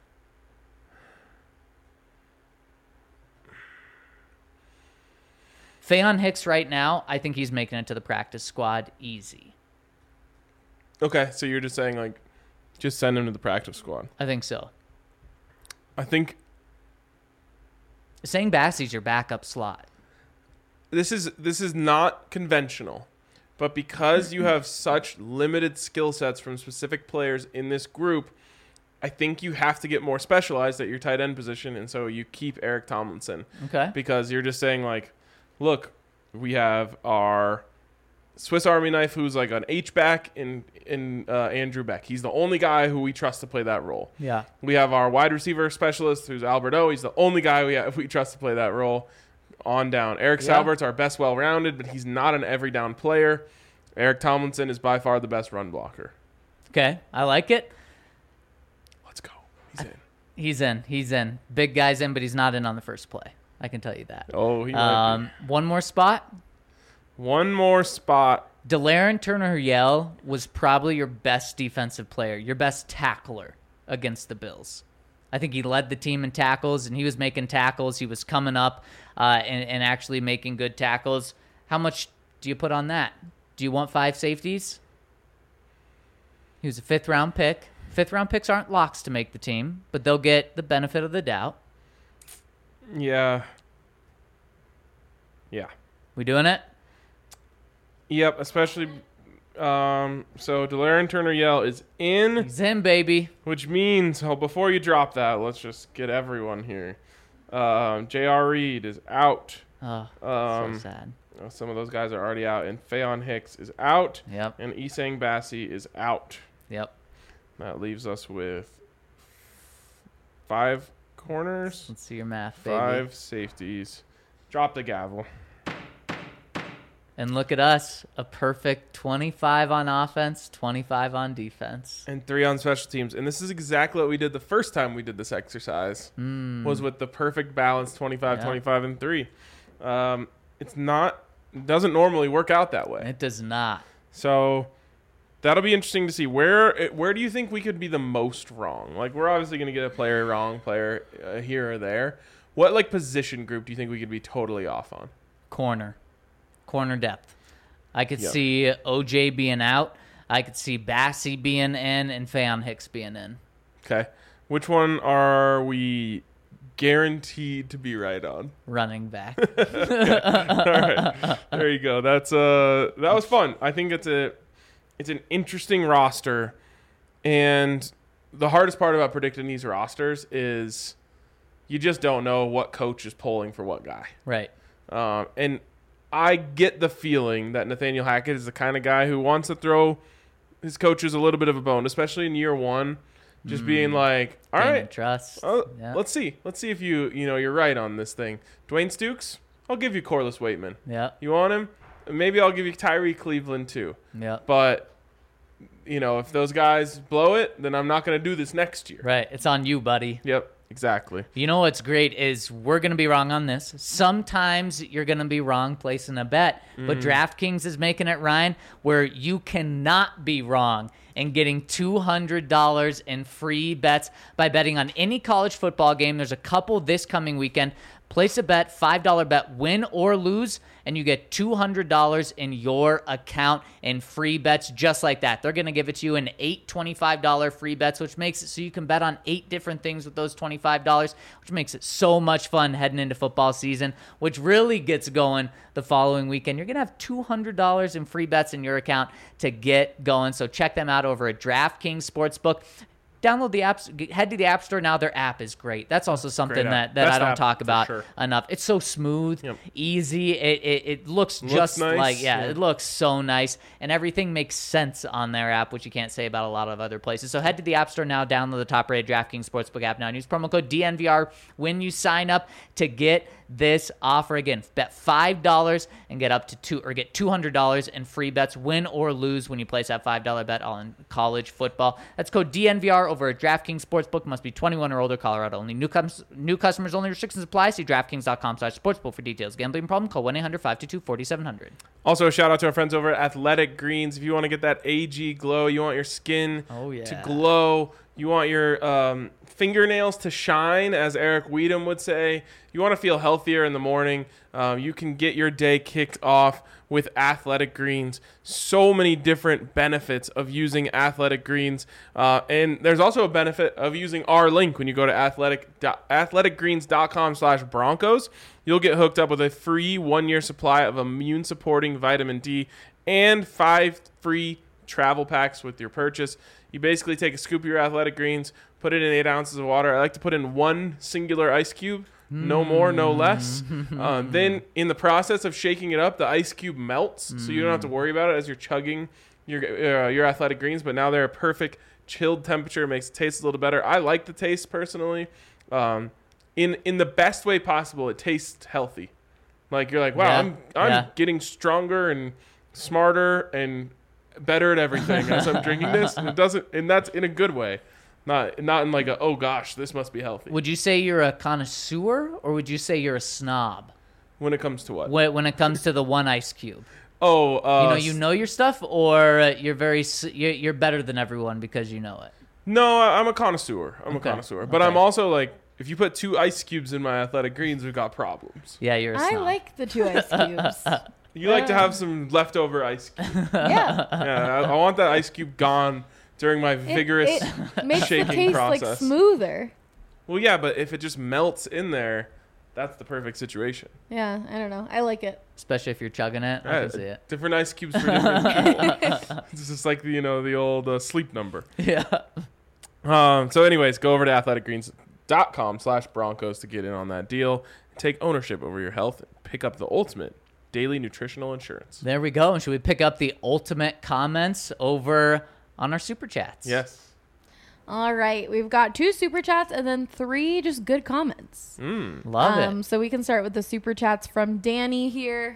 Faion Hicks right now, I think he's making it to the practice squad easy. Okay, so you're just saying like, just send him to the practice squad. I think so. I think Saying Bassie's your backup slot. this is this is not conventional, but because you have such limited skill sets from specific players in this group, I think you have to get more specialized at your tight end position, and so you keep Eric Tomlinson Okay. because you're just saying like, look, we have our Swiss Army knife who's like an H back in in uh, Andrew Beck. He's the only guy who we trust to play that role. Yeah. We have our wide receiver specialist, who's Alberto. He's the only guy we have, we trust to play that role. On down, Eric Yeah. Salbert's our best well-rounded, but he's not an every down player. Eric Tomlinson is by far the best run blocker. Okay. I like it. Let's go. He's in. He's in. He's in. Big guy's in, but he's not in on the first play. I can tell you that. Oh, he might Um, one more spot. be. One more spot. Delaren Turner-Yell was probably your best defensive player, your best tackler against the Bills. I think he led the team in tackles, and he was making tackles. He was coming up uh, and, and actually making good tackles. How much do you put on that? Do you want five safeties? He was a fifth-round pick. Fifth-round picks aren't locks to make the team, but they'll get the benefit of the doubt. Yeah. Yeah. We doing it? Yep, especially um so Delaren Turner-Yell is in, He's in, baby. which means oh, before you drop that, let's just get everyone here. Um J R. Reed is out. Oh, Um so sad. Uh, Some of those guys are already out, and Faion Hicks is out, Yep, and Isang Bassi is out. yep. That leaves us with five corners, Let's see your math, baby. five safeties. Drop the gavel. And look at us, a perfect twenty-five on offense, twenty-five on defense. And three on special teams. And this is exactly what we did the first time we did this exercise, Mm. was with the perfect balance twenty-five, Yeah. twenty-five, and three. Um, it's not, it doesn't normally work out that way. It does not. So that'll be interesting to see. Where where do you think we could be the most wrong? Like, we're obviously going to get a player wrong, player uh, here or there. What, like, position group do you think we could be totally off on? Corner. Corner depth. I could Yep. see O J being out. I could see Bassie being in and Faion Hicks being in. Okay. Which one are we guaranteed to be right on? Running back. All right. There you go. That's uh that was fun. I think it's a it's an interesting roster, and the hardest part about predicting these rosters is you just don't know what coach is pulling for what guy. Right. Um, and I get the feeling that Nathaniel Hackett is the kind of guy who wants to throw his coaches a little bit of a bone, especially in year one, just being like, all Gain right, and trust. uh, Yeah. let's see. Let's see if you, you know, you're right on this thing. Dwayne Stukes, I'll give you Corliss Waitman. Yeah. You want him? Maybe I'll give you Tyree Cleveland too. Yeah. But, you know, if those guys blow it, then I'm not going to do this next year. Right. It's on you, buddy. Yep, exactly. You know what's great is we're going to be wrong on this. Sometimes you're going to be wrong placing a bet, but DraftKings is making it, Ryan, where you cannot be wrong and getting two hundred dollars in free bets by betting on any college football game. There's a couple this coming weekend, Place a bet, five dollar bet, win or lose, and you get two hundred dollars in your account in free bets just like that. They're going to give it to you in eight twenty-five dollar free bets, which makes it so you can bet on eight different things with those twenty-five dollars, which makes it so much fun heading into football season, which really gets going the following weekend. You're going to have two hundred dollars in free bets in your account to get going. So check them out over at DraftKings Sportsbook. Download the apps, head to the App Store now. Their app is great. That's also something that, that I don't talk about sure. enough. It's so smooth, yep. easy. It, it it looks looks just nice. like, yeah, yeah, it looks so nice. And everything makes sense on their app, which you can't say about a lot of other places. So head to the App Store now, download the top-rated DraftKings Sportsbook app now, and use promo code D N V R when you sign up to get this offer. Again, bet five dollars and get up to two or get two hundred dollars in free bets, win or lose when you place that five dollar bet on college football. That's code D N V R over at DraftKings Sportsbook. Must be twenty-one or older, Colorado only. New, com- new customers only. Restrictions apply. See DraftKings.com slash sportsbook for details. Gambling problem? Call one eight hundred five two two four seven zero zero. Also, a shout out to our friends over at Athletic Greens. If you want to get that A G glow, you want your skin Oh, yeah. to glow, you want your um, fingernails to shine, as Eric Weedham would say, you want to feel healthier in the morning, um, you can get your day kicked off with Athletic Greens. So many different benefits of using Athletic Greens. Uh, and there's also a benefit of using our link when you go to athletic, athleticgreens.com slash Broncos. You'll get hooked up with a free one-year supply of immune-supporting vitamin D and five free travel packs with your purchase. You basically take a scoop of your Athletic Greens, put it in eight ounces of water. I like to put in one singular ice cube. No more, no less. Uh, then in the process of shaking it up, the ice cube melts, so you don't have to worry about it as you're chugging your uh, your Athletic Greens. But now they're a perfect chilled temperature, makes it taste a little better. I like the taste personally. Um, in in the best way possible, it tastes healthy. Like you're like, wow, Yeah, I'm I'm yeah. getting stronger and smarter and better at everything as I'm drinking this. And it doesn't, and that's in a good way. Not not in like a, oh gosh, this must be healthy. Would you say you're a connoisseur or would you say you're a snob When it comes to what? when, when it comes to the one ice cube? Oh, uh, You know, you know your stuff, or uh, you're very s- you're, you're better than everyone because you know it. No, I- I'm a connoisseur. I'm Okay, a connoisseur. But okay. I'm also like, if you put two ice cubes in my Athletic Greens, we've got problems. Yeah, you're a I snob. like the two ice cubes. You like to have some leftover ice cube. Yeah. Yeah, I, I want that ice cube gone during my It- vigorous it makes the shaking taste process. like smoother. Well, yeah, but if it just melts in there, that's the perfect situation. Yeah, I don't know. I like it. Especially if you're chugging it. I Yeah, can see it. Different ice cubes for different people. It's just like the, you know, the old uh, sleep number. Yeah. Um, so anyways, go over to athleticgreens.com slash Broncos to get in on that deal. Take ownership over your health and pick up the ultimate daily nutritional insurance. There we go. And should we pick up the ultimate comments over on our super chats? Yes. All right. We've got two super chats and then three just good comments. Mm. Love um, it. So we can start with the super chats from Danny here.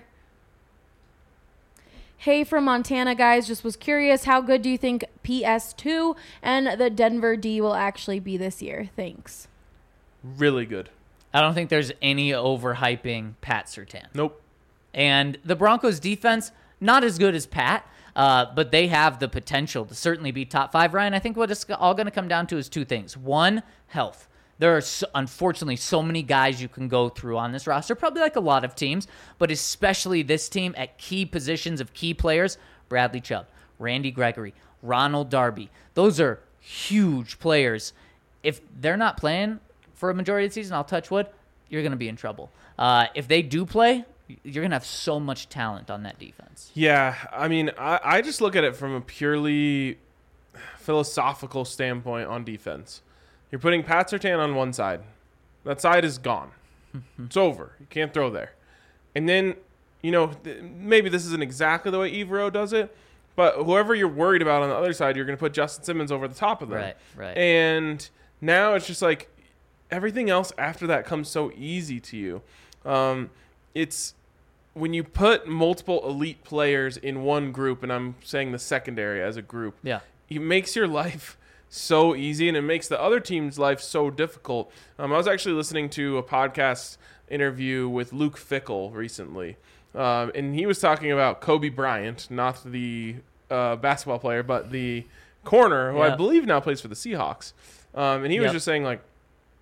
Hey, from Montana, guys. Just was curious, how good do you think P S two and the Denver D will actually be this year? Thanks. Really good. I don't think there's any overhyping Pat Surtain. Nope. And the Broncos defense, not as good as Pat, uh, but they have the potential to certainly be top five. Ryan, I think what it's all going to come down to is two things. One, health. There are, so, unfortunately, so many guys you can go through on this roster, probably like a lot of teams, but especially this team at key positions of key players, Bradley Chubb, Randy Gregory, Ronald Darby. Those are huge players. If they're not playing for a majority of the season, I'll touch wood, you're going to be in trouble. Uh, if they do play, you're going to have so much talent on that defense. Yeah, I mean, I, I just look at it from a purely philosophical standpoint on defense. You're putting Pat Surtain on one side. That side is gone. It's over. You can't throw there. And then, you know, th- maybe this isn't exactly the way Evero does it, but whoever you're worried about on the other side, you're going to put Justin Simmons over the top of them. Right, right. And now it's just like everything else after that comes so easy to you. Um, it's when you put multiple elite players in one group, and I'm saying the secondary as a group, Yeah. it makes your life so easy, and it makes the other team's life so difficult. Um, I was actually listening to a podcast interview with Luke Fickell recently, um, and he was talking about Kobe Bryant, not the uh, basketball player, but the corner, who Yeah. I believe now plays for the Seahawks. Um, and he was Yep. just saying, like,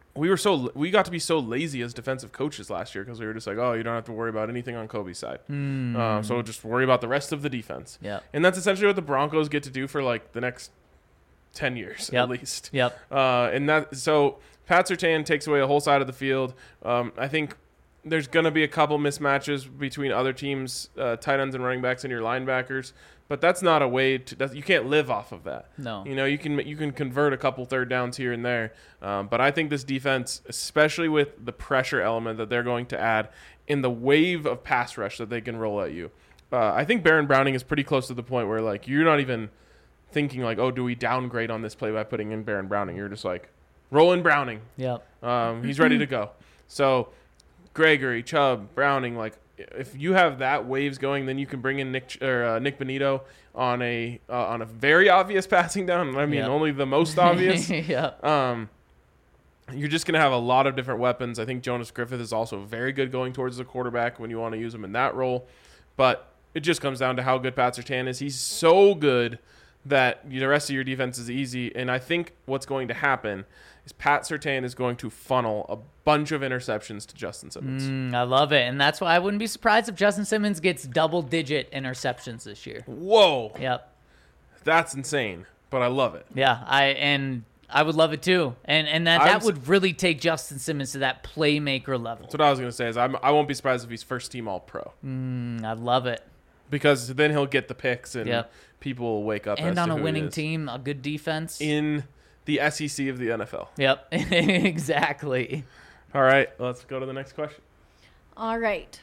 we were so we got to be so lazy as defensive coaches last year because we were just like, oh, you don't have to worry about anything on Kobe's side. Mm. Um, so just worry about the rest of the defense. Yep. And that's essentially what the Broncos get to do for like the next ten years Yep. at least. Yep. Uh, and that so Pat Surtain takes away a whole side of the field. Um, I think there's going to be a couple mismatches between other teams, uh, tight ends and running backs and your linebackers, but that's not a way to. That's, you can't live off of that. No. You know, you can you can convert a couple third downs here and there, um, but I think this defense, especially with the pressure element that they're going to add in the wave of pass rush that they can roll at you, uh, I think Baron Browning is pretty close to the point where like you're not even thinking like, oh, do we downgrade on this play by putting in Baron Browning? You're just like, roll in Browning. Yep. Um, he's ready to go. So Gregory, Chubb, Browning, like if you have that waves going, then you can bring in Nick or uh, Nick Benito on a uh, on a very obvious passing down. I mean, Yep. only the most obvious. Yep. Um, you're just going to have a lot of different weapons. I think Jonas Griffith is also very good going towards the quarterback when you want to use him in that role. But it just comes down to how good Pat Surtain is. He's so good that the rest of your defense is easy. And I think what's going to happen is Pat Surtain is going to funnel a bunch of interceptions to Justin Simmons. Mm, I love it. And that's why I wouldn't be surprised if Justin Simmons gets double-digit interceptions this year. Whoa. Yep. That's insane. But I love it. Yeah, I and I would love it too. And and that, that I'm- would really take Justin Simmons to that playmaker level. That's what I was going to say is I'm, I won't be surprised if he's first team All-Pro. Mm, I love it. Because then he'll get the picks and Yep. people will wake up And as on to a who he winning is. team, a good defense. In the S E C of the N F L. Yep, exactly. All right, let's go to the next question. All right.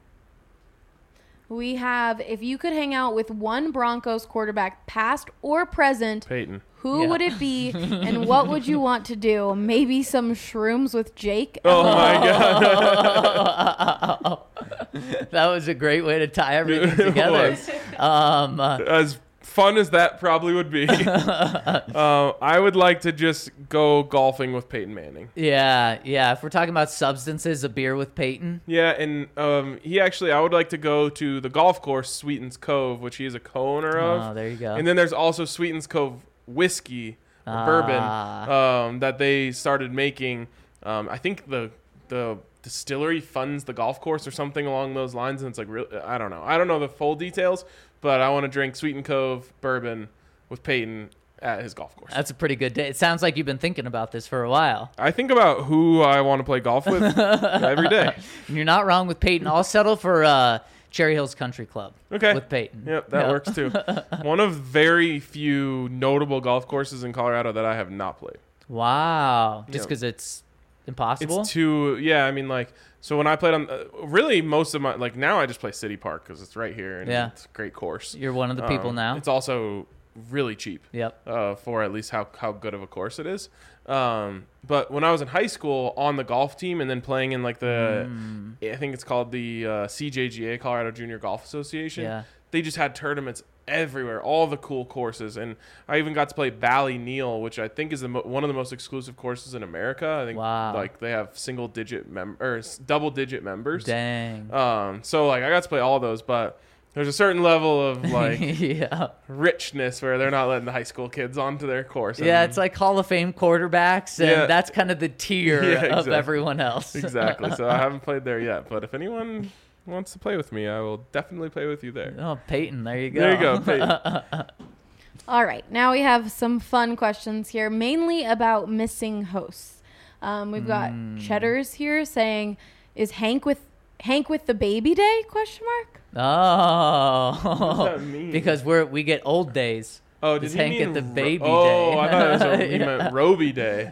We have, if you could hang out with one Broncos quarterback, past or present, Peyton. who Yeah. would it be and what would you want to do? Maybe some shrooms with Jake? Oh my God. That was a great way to tie everything It together. was. Um, uh, As fun as that probably would be, uh, I would like to just go golfing with Peyton Manning. yeah, yeah. If we're talking about substances, a beer with Peyton. Yeah, and um, he actually, I would like to go to the golf course, Sweetens Cove, which he is a co-owner of. Oh, there you go. And then there's also Sweetens Cove whiskey, or Ah. bourbon, um, that they started making. Um, I think the the distillery funds the golf course or something along those lines, and it's like, real, I don't know. I don't know the full details, but I want to drink Sweeten Cove bourbon with Peyton at his golf course. That's a pretty good day. It sounds like you've been thinking about this for a while. I think about who I want to play golf with every day. And you're not wrong with Peyton. I'll settle for uh, Cherry Hills Country Club Okay. with Peyton. Yep, that Yeah. works too. One of very few notable golf courses in Colorado that I have not played. Wow. Just Yeah. because it's impossible? It's too, yeah, I mean, like, so when I played on, uh, really most of my, like, now I just play City Park because it's right here and Yeah. it's a great course. You're one of the people Um, now. It's also really cheap. Yep. Uh, for at least how, how good of a course it is. Um, but when I was in high school on the golf team and then playing in like the, Mm. I think it's called the uh, C J G A, Colorado Junior Golf Association. Yeah. They just had tournaments everywhere, all the cool courses. And I even got to play Bally Neal, which I think is the mo- one of the most exclusive courses in America. I think Wow. like they have single digit mem- or s- double digit members. Dang. Um, so like I got to play all those, but there's a certain level of like yeah. richness where they're not letting the high school kids onto their course. Yeah, And- it's like Hall of Fame quarterbacks, and Yeah. that's kind of the tier Yeah, of exactly. everyone else. exactly. So I haven't played there yet, but if anyone wants to play with me, I will definitely play with you there. Oh, Peyton, there you go. There you go, Peyton. All right. Now we have some fun questions here, mainly about missing hosts. Um, we've got Hmm. Cheddars here saying, "Is Hank with Hank with the baby day?" Question mark. Oh, What does that mean? because we're we get old days. Oh, did Does he Hank mean get the ro- baby oh, day? I thought it was a, he Yeah. meant Roby Day.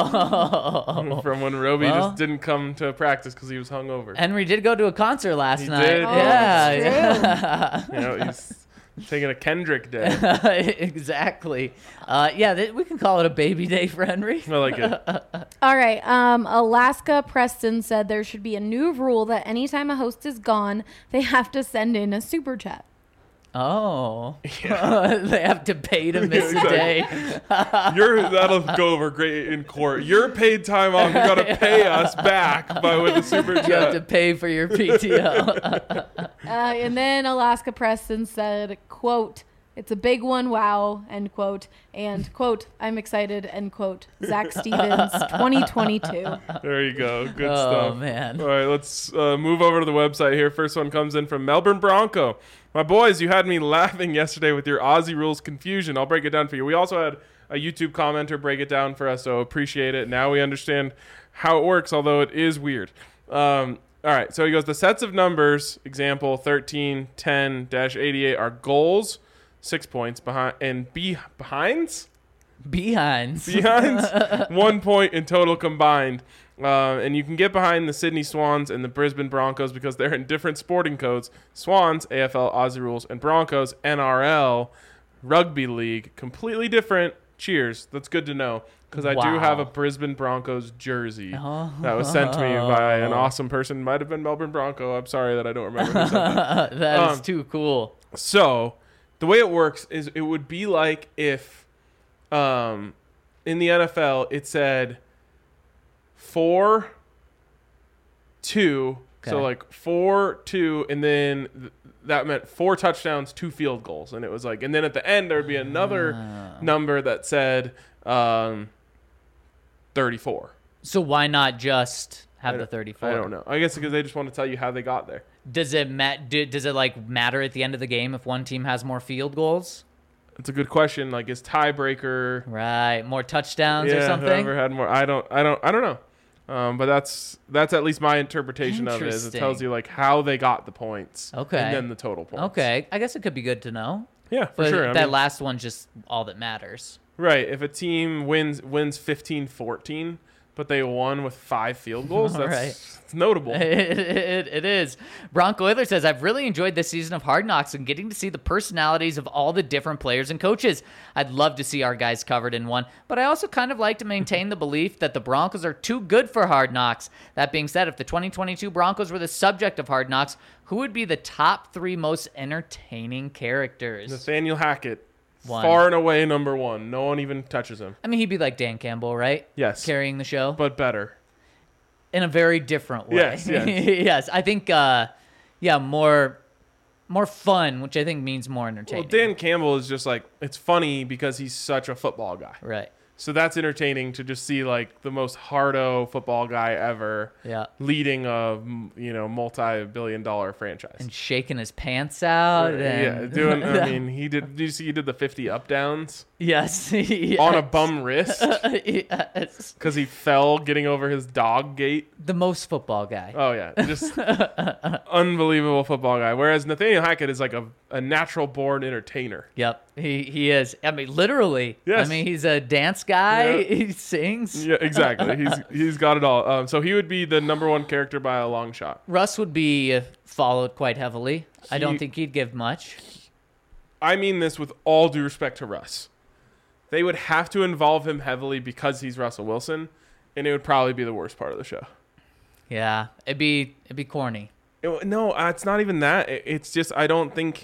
Oh, From when Roby Well. just didn't come to practice because he was hungover. Henry did go to a concert last He night. did? Oh, yeah, that's You know, he's taking a Kendrick Day. yeah. exactly. Uh, yeah, th- we can call it a baby day for Henry. I like it. All right. Um, Alaska Preston said there should be a new rule that anytime a host is gone, they have to send in a super chat. Oh, they have to pay to miss Yeah, a day. You're, that'll go over great in court. Your paid time off, you got to pay us back by with the super You have to chat. pay for your P T O. Uh, and then Alaska Preston said, "Quote: It's a big one, wow, end quote. And, quote, I'm excited, end quote. Zach Stevens, twenty twenty-two. There you go. Good Oh, stuff. man. All right, let's uh, move over to the website here. First one comes in from Melbourne Bronco. My boys, you had me laughing yesterday with your Aussie rules confusion. I'll break it down for you. We also had a YouTube commenter break it down for us, so appreciate it. Now we understand how it works, although it is weird. Um, all right, so he goes, the sets of numbers, example thirteen, ten, eighty-eight, are goals, six points, behind, and be, behinds? Behinds. Behinds, one point in total combined. Uh, and you can get behind the Sydney Swans and the Brisbane Broncos because they're in different sporting codes. Swans, A F L, Aussie rules, and Broncos, N R L, Rugby League, completely different. Cheers. That's good to know because I do Wow. have a Brisbane Broncos jersey Oh. that was sent to me by an awesome person. Might have been Melbourne Bronco. I'm sorry that I don't remember who sent that. That is Um, too cool. So the way it works is it would be like if um, in the N F L it said four, two. So Okay. like four, two, and then th- that meant four touchdowns, two field goals. And it was like, and then at the end there would be another Ah. number that said um, thirty-four. So why not just have I the don't- thirty-four? I don't know. I guess because they just want to tell you how they got there. Does it ma- do, Does it like matter at the end of the game if one team has more field goals? It's a good question. Like, is tiebreaker? Right, more touchdowns yeah, or something. whoever had more. I don't. I don't. I don't know. Um, but that's that's at least my interpretation of it. Is it tells Interesting. you like how they got the points. Okay. And then the total points. Okay, I guess it could be good to know. Yeah, for But sure. I that mean, last one's just all that matters. right. If a team wins wins fifteen fourteen, but they won with five field goals, that's Right. it's notable. It, it, it is. Bronco Oiler says, I've really enjoyed this season of Hard Knocks and getting to see the personalities of all the different players and coaches. I'd love to see our guys covered in one, but I also kind of like to maintain the belief that the Broncos are too good for Hard Knocks. That being said, if the twenty twenty-two Broncos were the subject of Hard Knocks, who would be the top three most entertaining characters? Nathaniel Hackett, One. far and away number one. No one even touches him. I mean, he'd be like Dan Campbell, right? Yes, Carrying the show. but better. In a very different way. Yes, yes. yes. I think, uh, yeah, more more fun, which I think means more Well, entertaining. Dan Campbell is just like it's funny because he's such a football guy. Right. So that's entertaining to just see like the most hardo football guy ever Yeah. leading a m- you know multi-billion dollar franchise. And shaking his pants out. yeah, And doing. I mean, he did. Did you see he did the fifty up downs yes. yes. on a bum wrist yes. because he fell getting over his dog gate? The most football guy. Oh yeah, just unbelievable football guy. Whereas Nathaniel Hackett is like a, a natural born entertainer. Yep. He he is. I mean, literally. Yes. I mean, he's a dance guy. Yeah. He sings. Yeah, exactly. He's he's got it all. Um, so he would be the number one character by a long shot. Russ would be uh, followed quite heavily. I don't He- think he'd give much. I mean this with all due respect to Russ. They would have to involve him heavily because he's Russell Wilson, and it would probably be the worst part of the show. Yeah. It'd be it'd be corny. It- no, uh, it's not even that. It- it's just I don't think.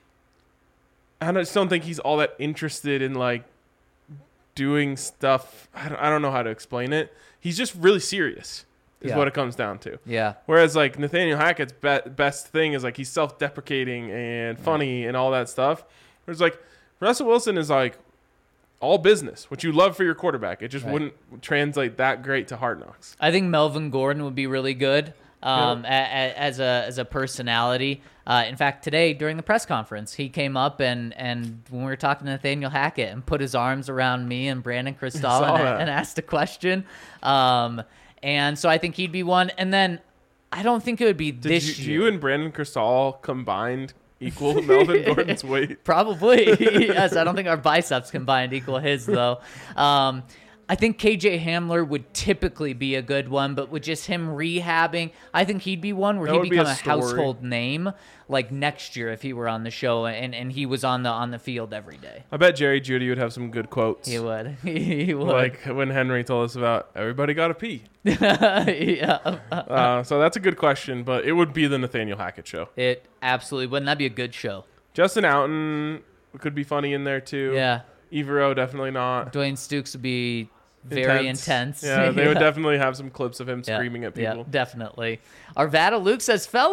I don't- just don't think he's all that interested in like doing stuff. I don't, I don't know how to explain it. He's just really serious, is Yeah. what it comes down to. Yeah. Whereas like Nathaniel Hackett's be- best thing is like he's self-deprecating and funny and all that stuff. Whereas like Russell Wilson is like all business, which you love for your quarterback. It just Right. wouldn't translate that great to Hard Knocks. I think Melvin Gordon would be really good um, a, a, as a as a personality. Uh, in fact, today during the press conference, he came up and, and when we were talking to Nathaniel Hackett and put his arms around me and Brandon Cristal Saw and, that. and asked a question. Um, and so I think he'd be one. And then I don't think it would be Did this you, year. you and Brandon Cristal combined equal Melvin Gordon's weight? Probably. Yes, I don't think our biceps combined equal his, though. Um, I think K J Hamler would typically be a good one, but with just him rehabbing, I think he'd be one where That he'd would be become a a, story. household name like next year if he were on the show and, and he was on the on the field every day. I bet Jerry Judy would have some good quotes. He would. He would. Like when Henry told us about everybody got to pee. yeah. Uh, so that's a good question, but it would be the Nathaniel Hackett show. It absolutely wouldn't that be a good show? Justin Outen could be funny in there too. Yeah. Evero definitely not. Dwayne Stukes would be very intense. Yeah, they would definitely have some clips of him screaming at Yeah, people. definitely. Arvada Luke says, fellas,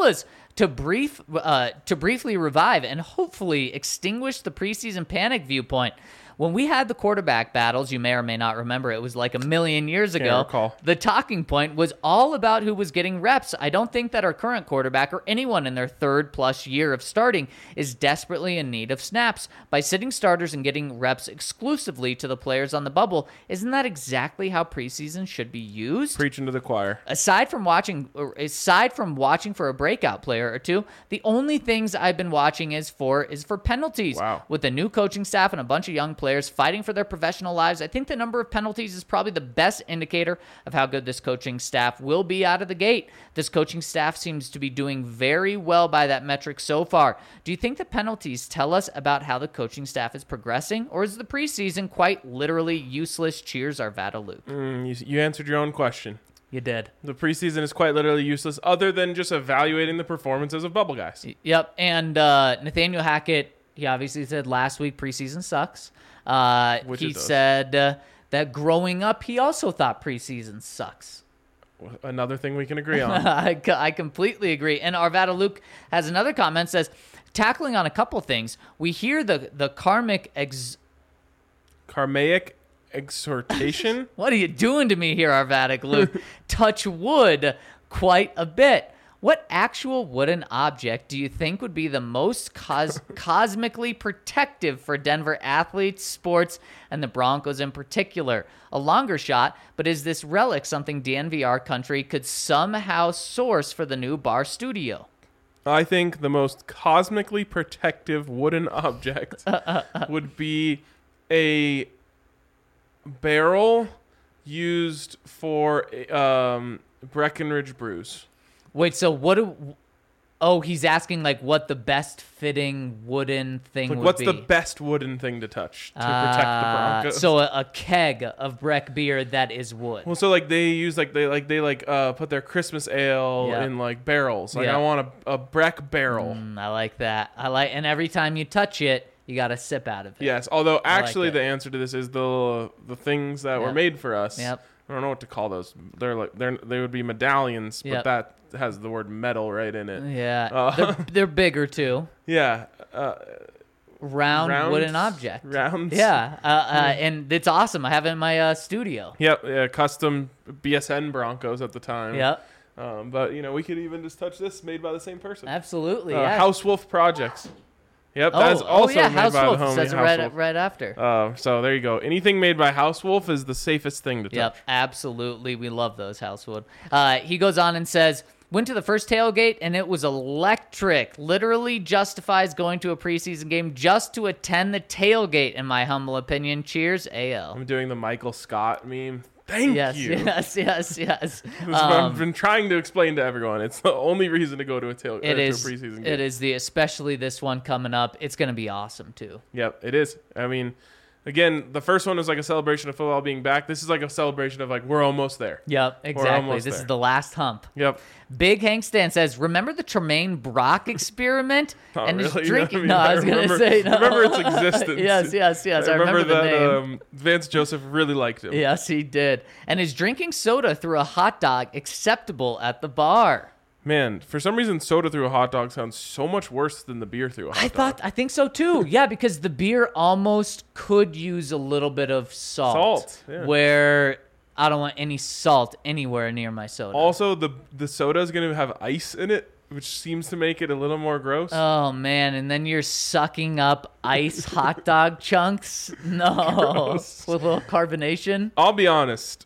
to brief uh, to briefly revive and hopefully extinguish the preseason panic viewpoint. When we had the quarterback battles, you may or may not remember, it was like a million years ago. Can't recall. The talking point was all about who was getting reps. I don't think that our current quarterback or anyone in their third plus year of starting is desperately in need of snaps. By sitting starters and getting reps exclusively to the players on the bubble, isn't that exactly how preseason should be used? Preaching to the choir. Aside from watching, or aside from watching for a breakout player or two, the only things I've been watching is for is for penalties. Wow. With the new coaching staff and a bunch of young players fighting for their professional lives, I think the number of penalties is probably the best indicator of how good this coaching staff will be out of the gate. This coaching staff seems to be doing very well by that metric so far. Do you think the penalties tell us about how the coaching staff is progressing, or is the preseason quite literally useless? Cheers, Arvada Luke. Mm, you, you answered your own question. You did. The preseason is quite literally useless other than just evaluating the performances of bubble guys. Yep, and uh, Nathaniel Hackett, he obviously said last week preseason sucks. Uh, Which he it does. said uh, that growing up, he also thought preseason sucks. Another thing we can agree on. I, co- I completely agree. And Arvada Luke has another comment, says, tackling on a couple things, we hear the, the karmic ex... Karmaic exhortation. What are you doing to me here, Arvada Luke? Touch wood quite a bit. What actual wooden object do you think would be the most cos- cosmically protective for Denver athletes, sports, and the Broncos in particular? A longer shot, but is this relic something D N V R country could somehow source for the new bar studio? I think the most cosmically protective wooden object would be a barrel used for um, Breckenridge brews. Wait, so what do... Oh, he's asking, like, what the best fitting wooden thing Like, would what's be. the best wooden thing to touch to protect the Ah, Broncos? So a, a keg of Breck beer that is wood. Well, so like they use like they like they like uh put their Christmas ale Yeah. in like barrels. Like Yeah. I want a, a Breck barrel. Mm, I like that. I like, and every time you touch it, you got to sip out of it. Yes, although like actually it. the answer to this is the the things that were Yep. made for us. Yep. I don't know what to call those. They're like they're they would be medallions, but Yep. that has the word metal right in it. Yeah, Uh, they're, they're bigger too. Yeah. Uh, Round round wooden object. Rounds. Yeah, uh, uh, and it's awesome. I have it in my uh, studio. Yep. Yeah, custom B S N Broncos at the time. Yep, Um, but you know we could even just touch this made by the same person. absolutely. Uh, yeah. House Wolf Projects. Yep, oh, that's oh, also yeah, made House by Wolf the homie says it House right, Wolf. right after. Uh, so there you go. Anything made by House Wolf is the safest thing to touch. Yep, absolutely. We love those Housewood. Uh, he goes on and says, went to the first tailgate and it was electric. Literally justifies going to a preseason game just to attend the tailgate, in my humble opinion. Cheers, A L. I'm doing the Michael Scott meme. Thank Yes, you. yes, yes, yes. This is what I've Um, been trying to explain to everyone. It's the only reason to go to a tail it uh, is. to a preseason game. It is the especially this one coming up. It's going to be awesome too. Yep, it is. I mean, again, the first one was like a celebration of football being back. This is like a celebration of like we're almost there. Yep, exactly. almost This there. is the last hump. Yep. Big Hank Stan says, "Remember the Tremaine Brock experiment?" Not and his really. drinking. I mean, no, I I was gonna remember- say. No. remember its existence. yes, yes, yes. I, remember, the that name. Um, Vance Joseph really liked him. Yes, he did. And is drinking soda through a hot dog acceptable at the bar? Man, for some reason, soda through a hot dog sounds so much worse than the beer through a hot I dog. thought, I think so too. Yeah, because the beer almost could use a little bit of salt. Salt, yeah. Where I don't want any salt anywhere near my soda. Also, the the soda is going to have ice in it, which seems to make it a little more gross. Oh man, and then you're sucking up ice hot dog chunks. No, Gross. with a little carbonation. I'll be honest.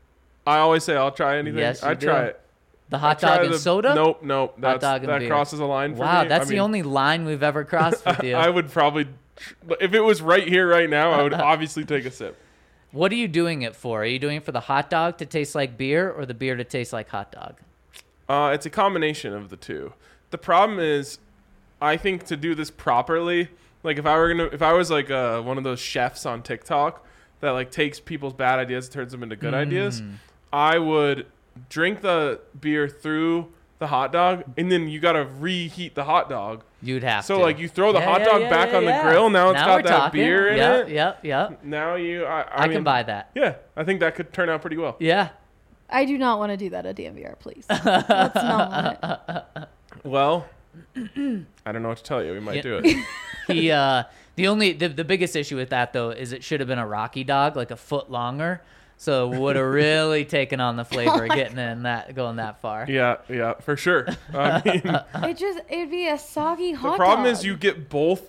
I always say I'll try anything. Yes, you I do. try it. The hot I try dog and the- soda. Nope, nope. That's, dog and that beer. crosses a line for Wow, me. that's I the mean, only line we've ever crossed with you. I would probably, tr- if it was right here, right now, I would obviously take a sip. What are you doing it for? Are you doing it for the hot dog to taste like beer, or the beer to taste like hot dog? Uh, it's a combination of the two. The problem is, I think to do this properly, like if I were gonna, if I was like uh, one of those chefs on TikTok that like takes people's bad ideas and turns them into good ideas, Mm. I would drink the beer through the hot dog, and then you gotta reheat the hot dog. You'd have So to. like you throw the Yeah, hot yeah, dog yeah, back yeah, on yeah. the grill. Now it's Now got we're that talking. beer in yep, it. Yep, yep. Now you, I, I, I, mean, can buy that. Yeah, I think that could turn out pretty well. Yeah. I do not want to do that at D M V R, please. Let's not want it. Well, I don't know what to tell you. We might Yeah. do it. He uh the only the, the biggest issue with that though is it should have been a Rocky dog, like a foot longer. So it would have really taken on the flavor of getting in that going that far. Yeah, yeah, for sure. I mean, It just it'd be a soggy hot the problem dog. is you get both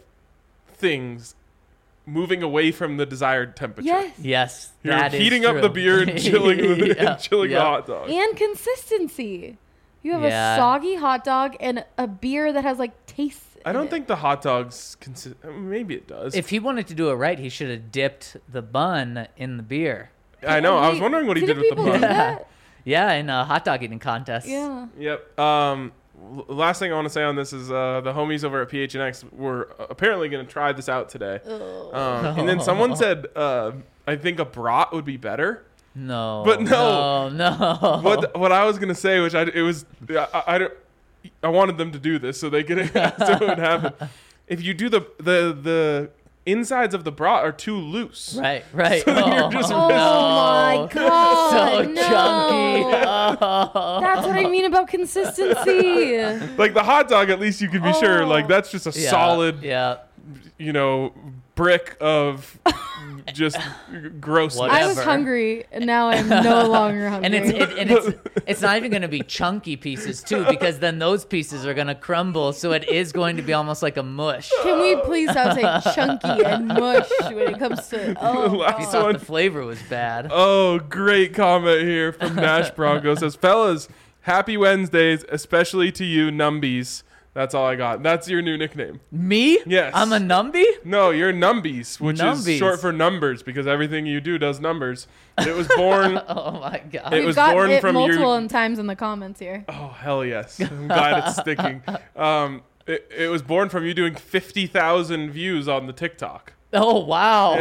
things moving away from the desired temperature. Yes. Yes, You're that is heating up true. the beer and chilling the, Yeah, and chilling yeah. the hot dog. And consistency. You have Yeah. a soggy hot dog and a beer that has like taste. I in don't it. think the hot dog's consi- maybe it does. If he wanted to do it right, he should have dipped the bun in the beer. I know. I was Wait, wondering what he did with the people do bun. that? Yeah, in a hot dog eating contest. Yeah. Yep. Um, l- last thing I want to say on this is uh, the homies over at P H N X were uh, apparently going to try this out today. Um, and then someone said, uh, I think a brat would be better. No. But no. No. no. What what I was going to say, which I it was I, I, I don't I wanted them to do this so they could so it would happen. If you do the the the insides of the brat are too loose. Right, right. So oh, you're just- Oh no. my god. So no. chunky. Oh. That's what I mean about consistency. Like the hot dog, at least you can be sure. Oh. Like that's just a Yeah, solid, Yeah. you know, brick of just grossness. Whatever. I was hungry and now I'm no longer hungry. And it's it, and it's it's not even going to be chunky pieces too, because then those pieces are going to crumble, so it is going to be almost like a mush. Can we please stop saying chunky and mush when it comes to oh Last You God. thought one. the flavor was bad. Oh, great comment here from Nash Bronco. Says, fellas, happy Wednesdays, especially to you, Numbies. That's all I got. That's your new nickname. Me? Yes. I'm a numby? No, you're Numbies, which Numbies. is short for numbers because everything you do does numbers. It was born. Oh my god. It We've was got born it from your- multiple times in the comments here. Oh, hell yes. I'm glad it's sticking. Um, it, it was born from you doing fifty thousand views on the TikTok. Oh wow.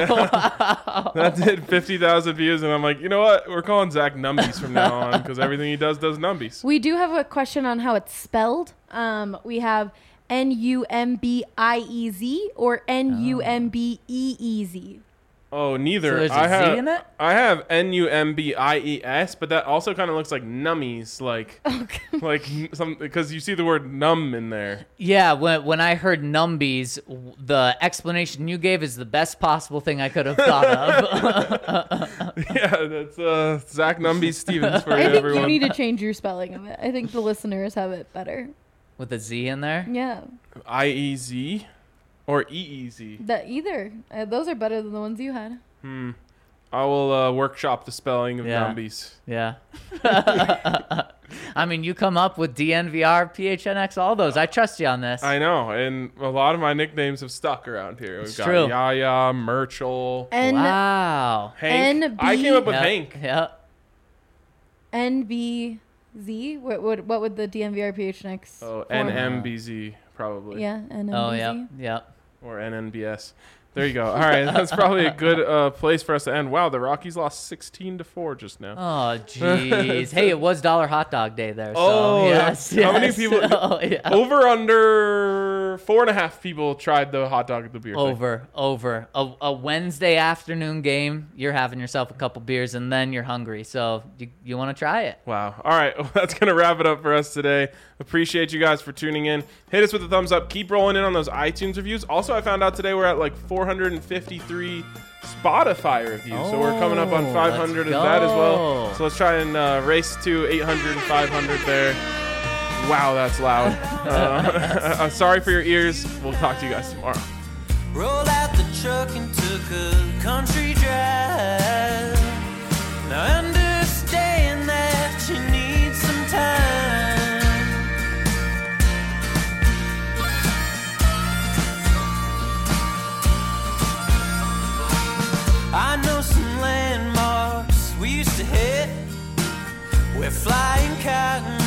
That did fifty thousand views, and I'm like, you know what? We're calling Zach Numbies from now on because everything he does does Numbies. We do have a question on how it's spelled. Um, we have N U M B I E Z or N U M B E E Z. Oh, neither. So there's a I Z have in it? I have N U M B I E S, but that also kind of looks like nummies, like like n- some because you see the word numb in there. Yeah, when when I heard numbies, w- the explanation you gave is the best possible thing I could have thought of. Yeah, that's uh, Zach Numbies Stevens for I think everyone. you need to change your spelling of it. I think the listeners have it better. With a Z in there? Yeah, I E Z or E E Z. that either. Uh, those are better than the ones you had. Hmm. I will uh, workshop the spelling of Yeah. numbies. Yeah. I mean, you come up with D N V R, P H N X, all those. I trust you on this. I know, and a lot of my nicknames have stuck around here. We've It's got true. Yaya, Murchel, N wow. Hank. N I B came up with Yep, Hank. Yep. N B Z. What would what would the D N V R P H N X? Oh, form? N M B Z probably. Yeah, N M B Z. Oh, yep. Yep. Or N N B S. There you go. All right, that's probably a good uh, place for us to end. Wow, the Rockies lost sixteen to four just now. Oh, jeez. Hey, it was Dollar Hot Dog Day there. So, Oh, yes. how many yes. people- Oh, yeah. Over under four and a half people tried the hot dog at the beer thing. Over, over. A, a Wednesday afternoon game, you're having yourself a couple beers, and then you're hungry. So you, you want to try it. Wow. All right. Well, that's going to wrap it up for us today. Appreciate you guys for tuning in. Hit us with a thumbs up. Keep rolling in on those iTunes reviews. Also, I found out today we're at like four hundred fifty-three Spotify reviews. so we're coming up on Oh, five hundred of let's that as well. go. So let's try and uh, race to eight hundred and five hundred there. Wow, that's loud. Uh, I'm sorry for your ears. We'll talk to you guys tomorrow. Rolled out the truck and took a country drive. Now I understand that you need some time. I know some landmarks we used to hit. We're flying cotton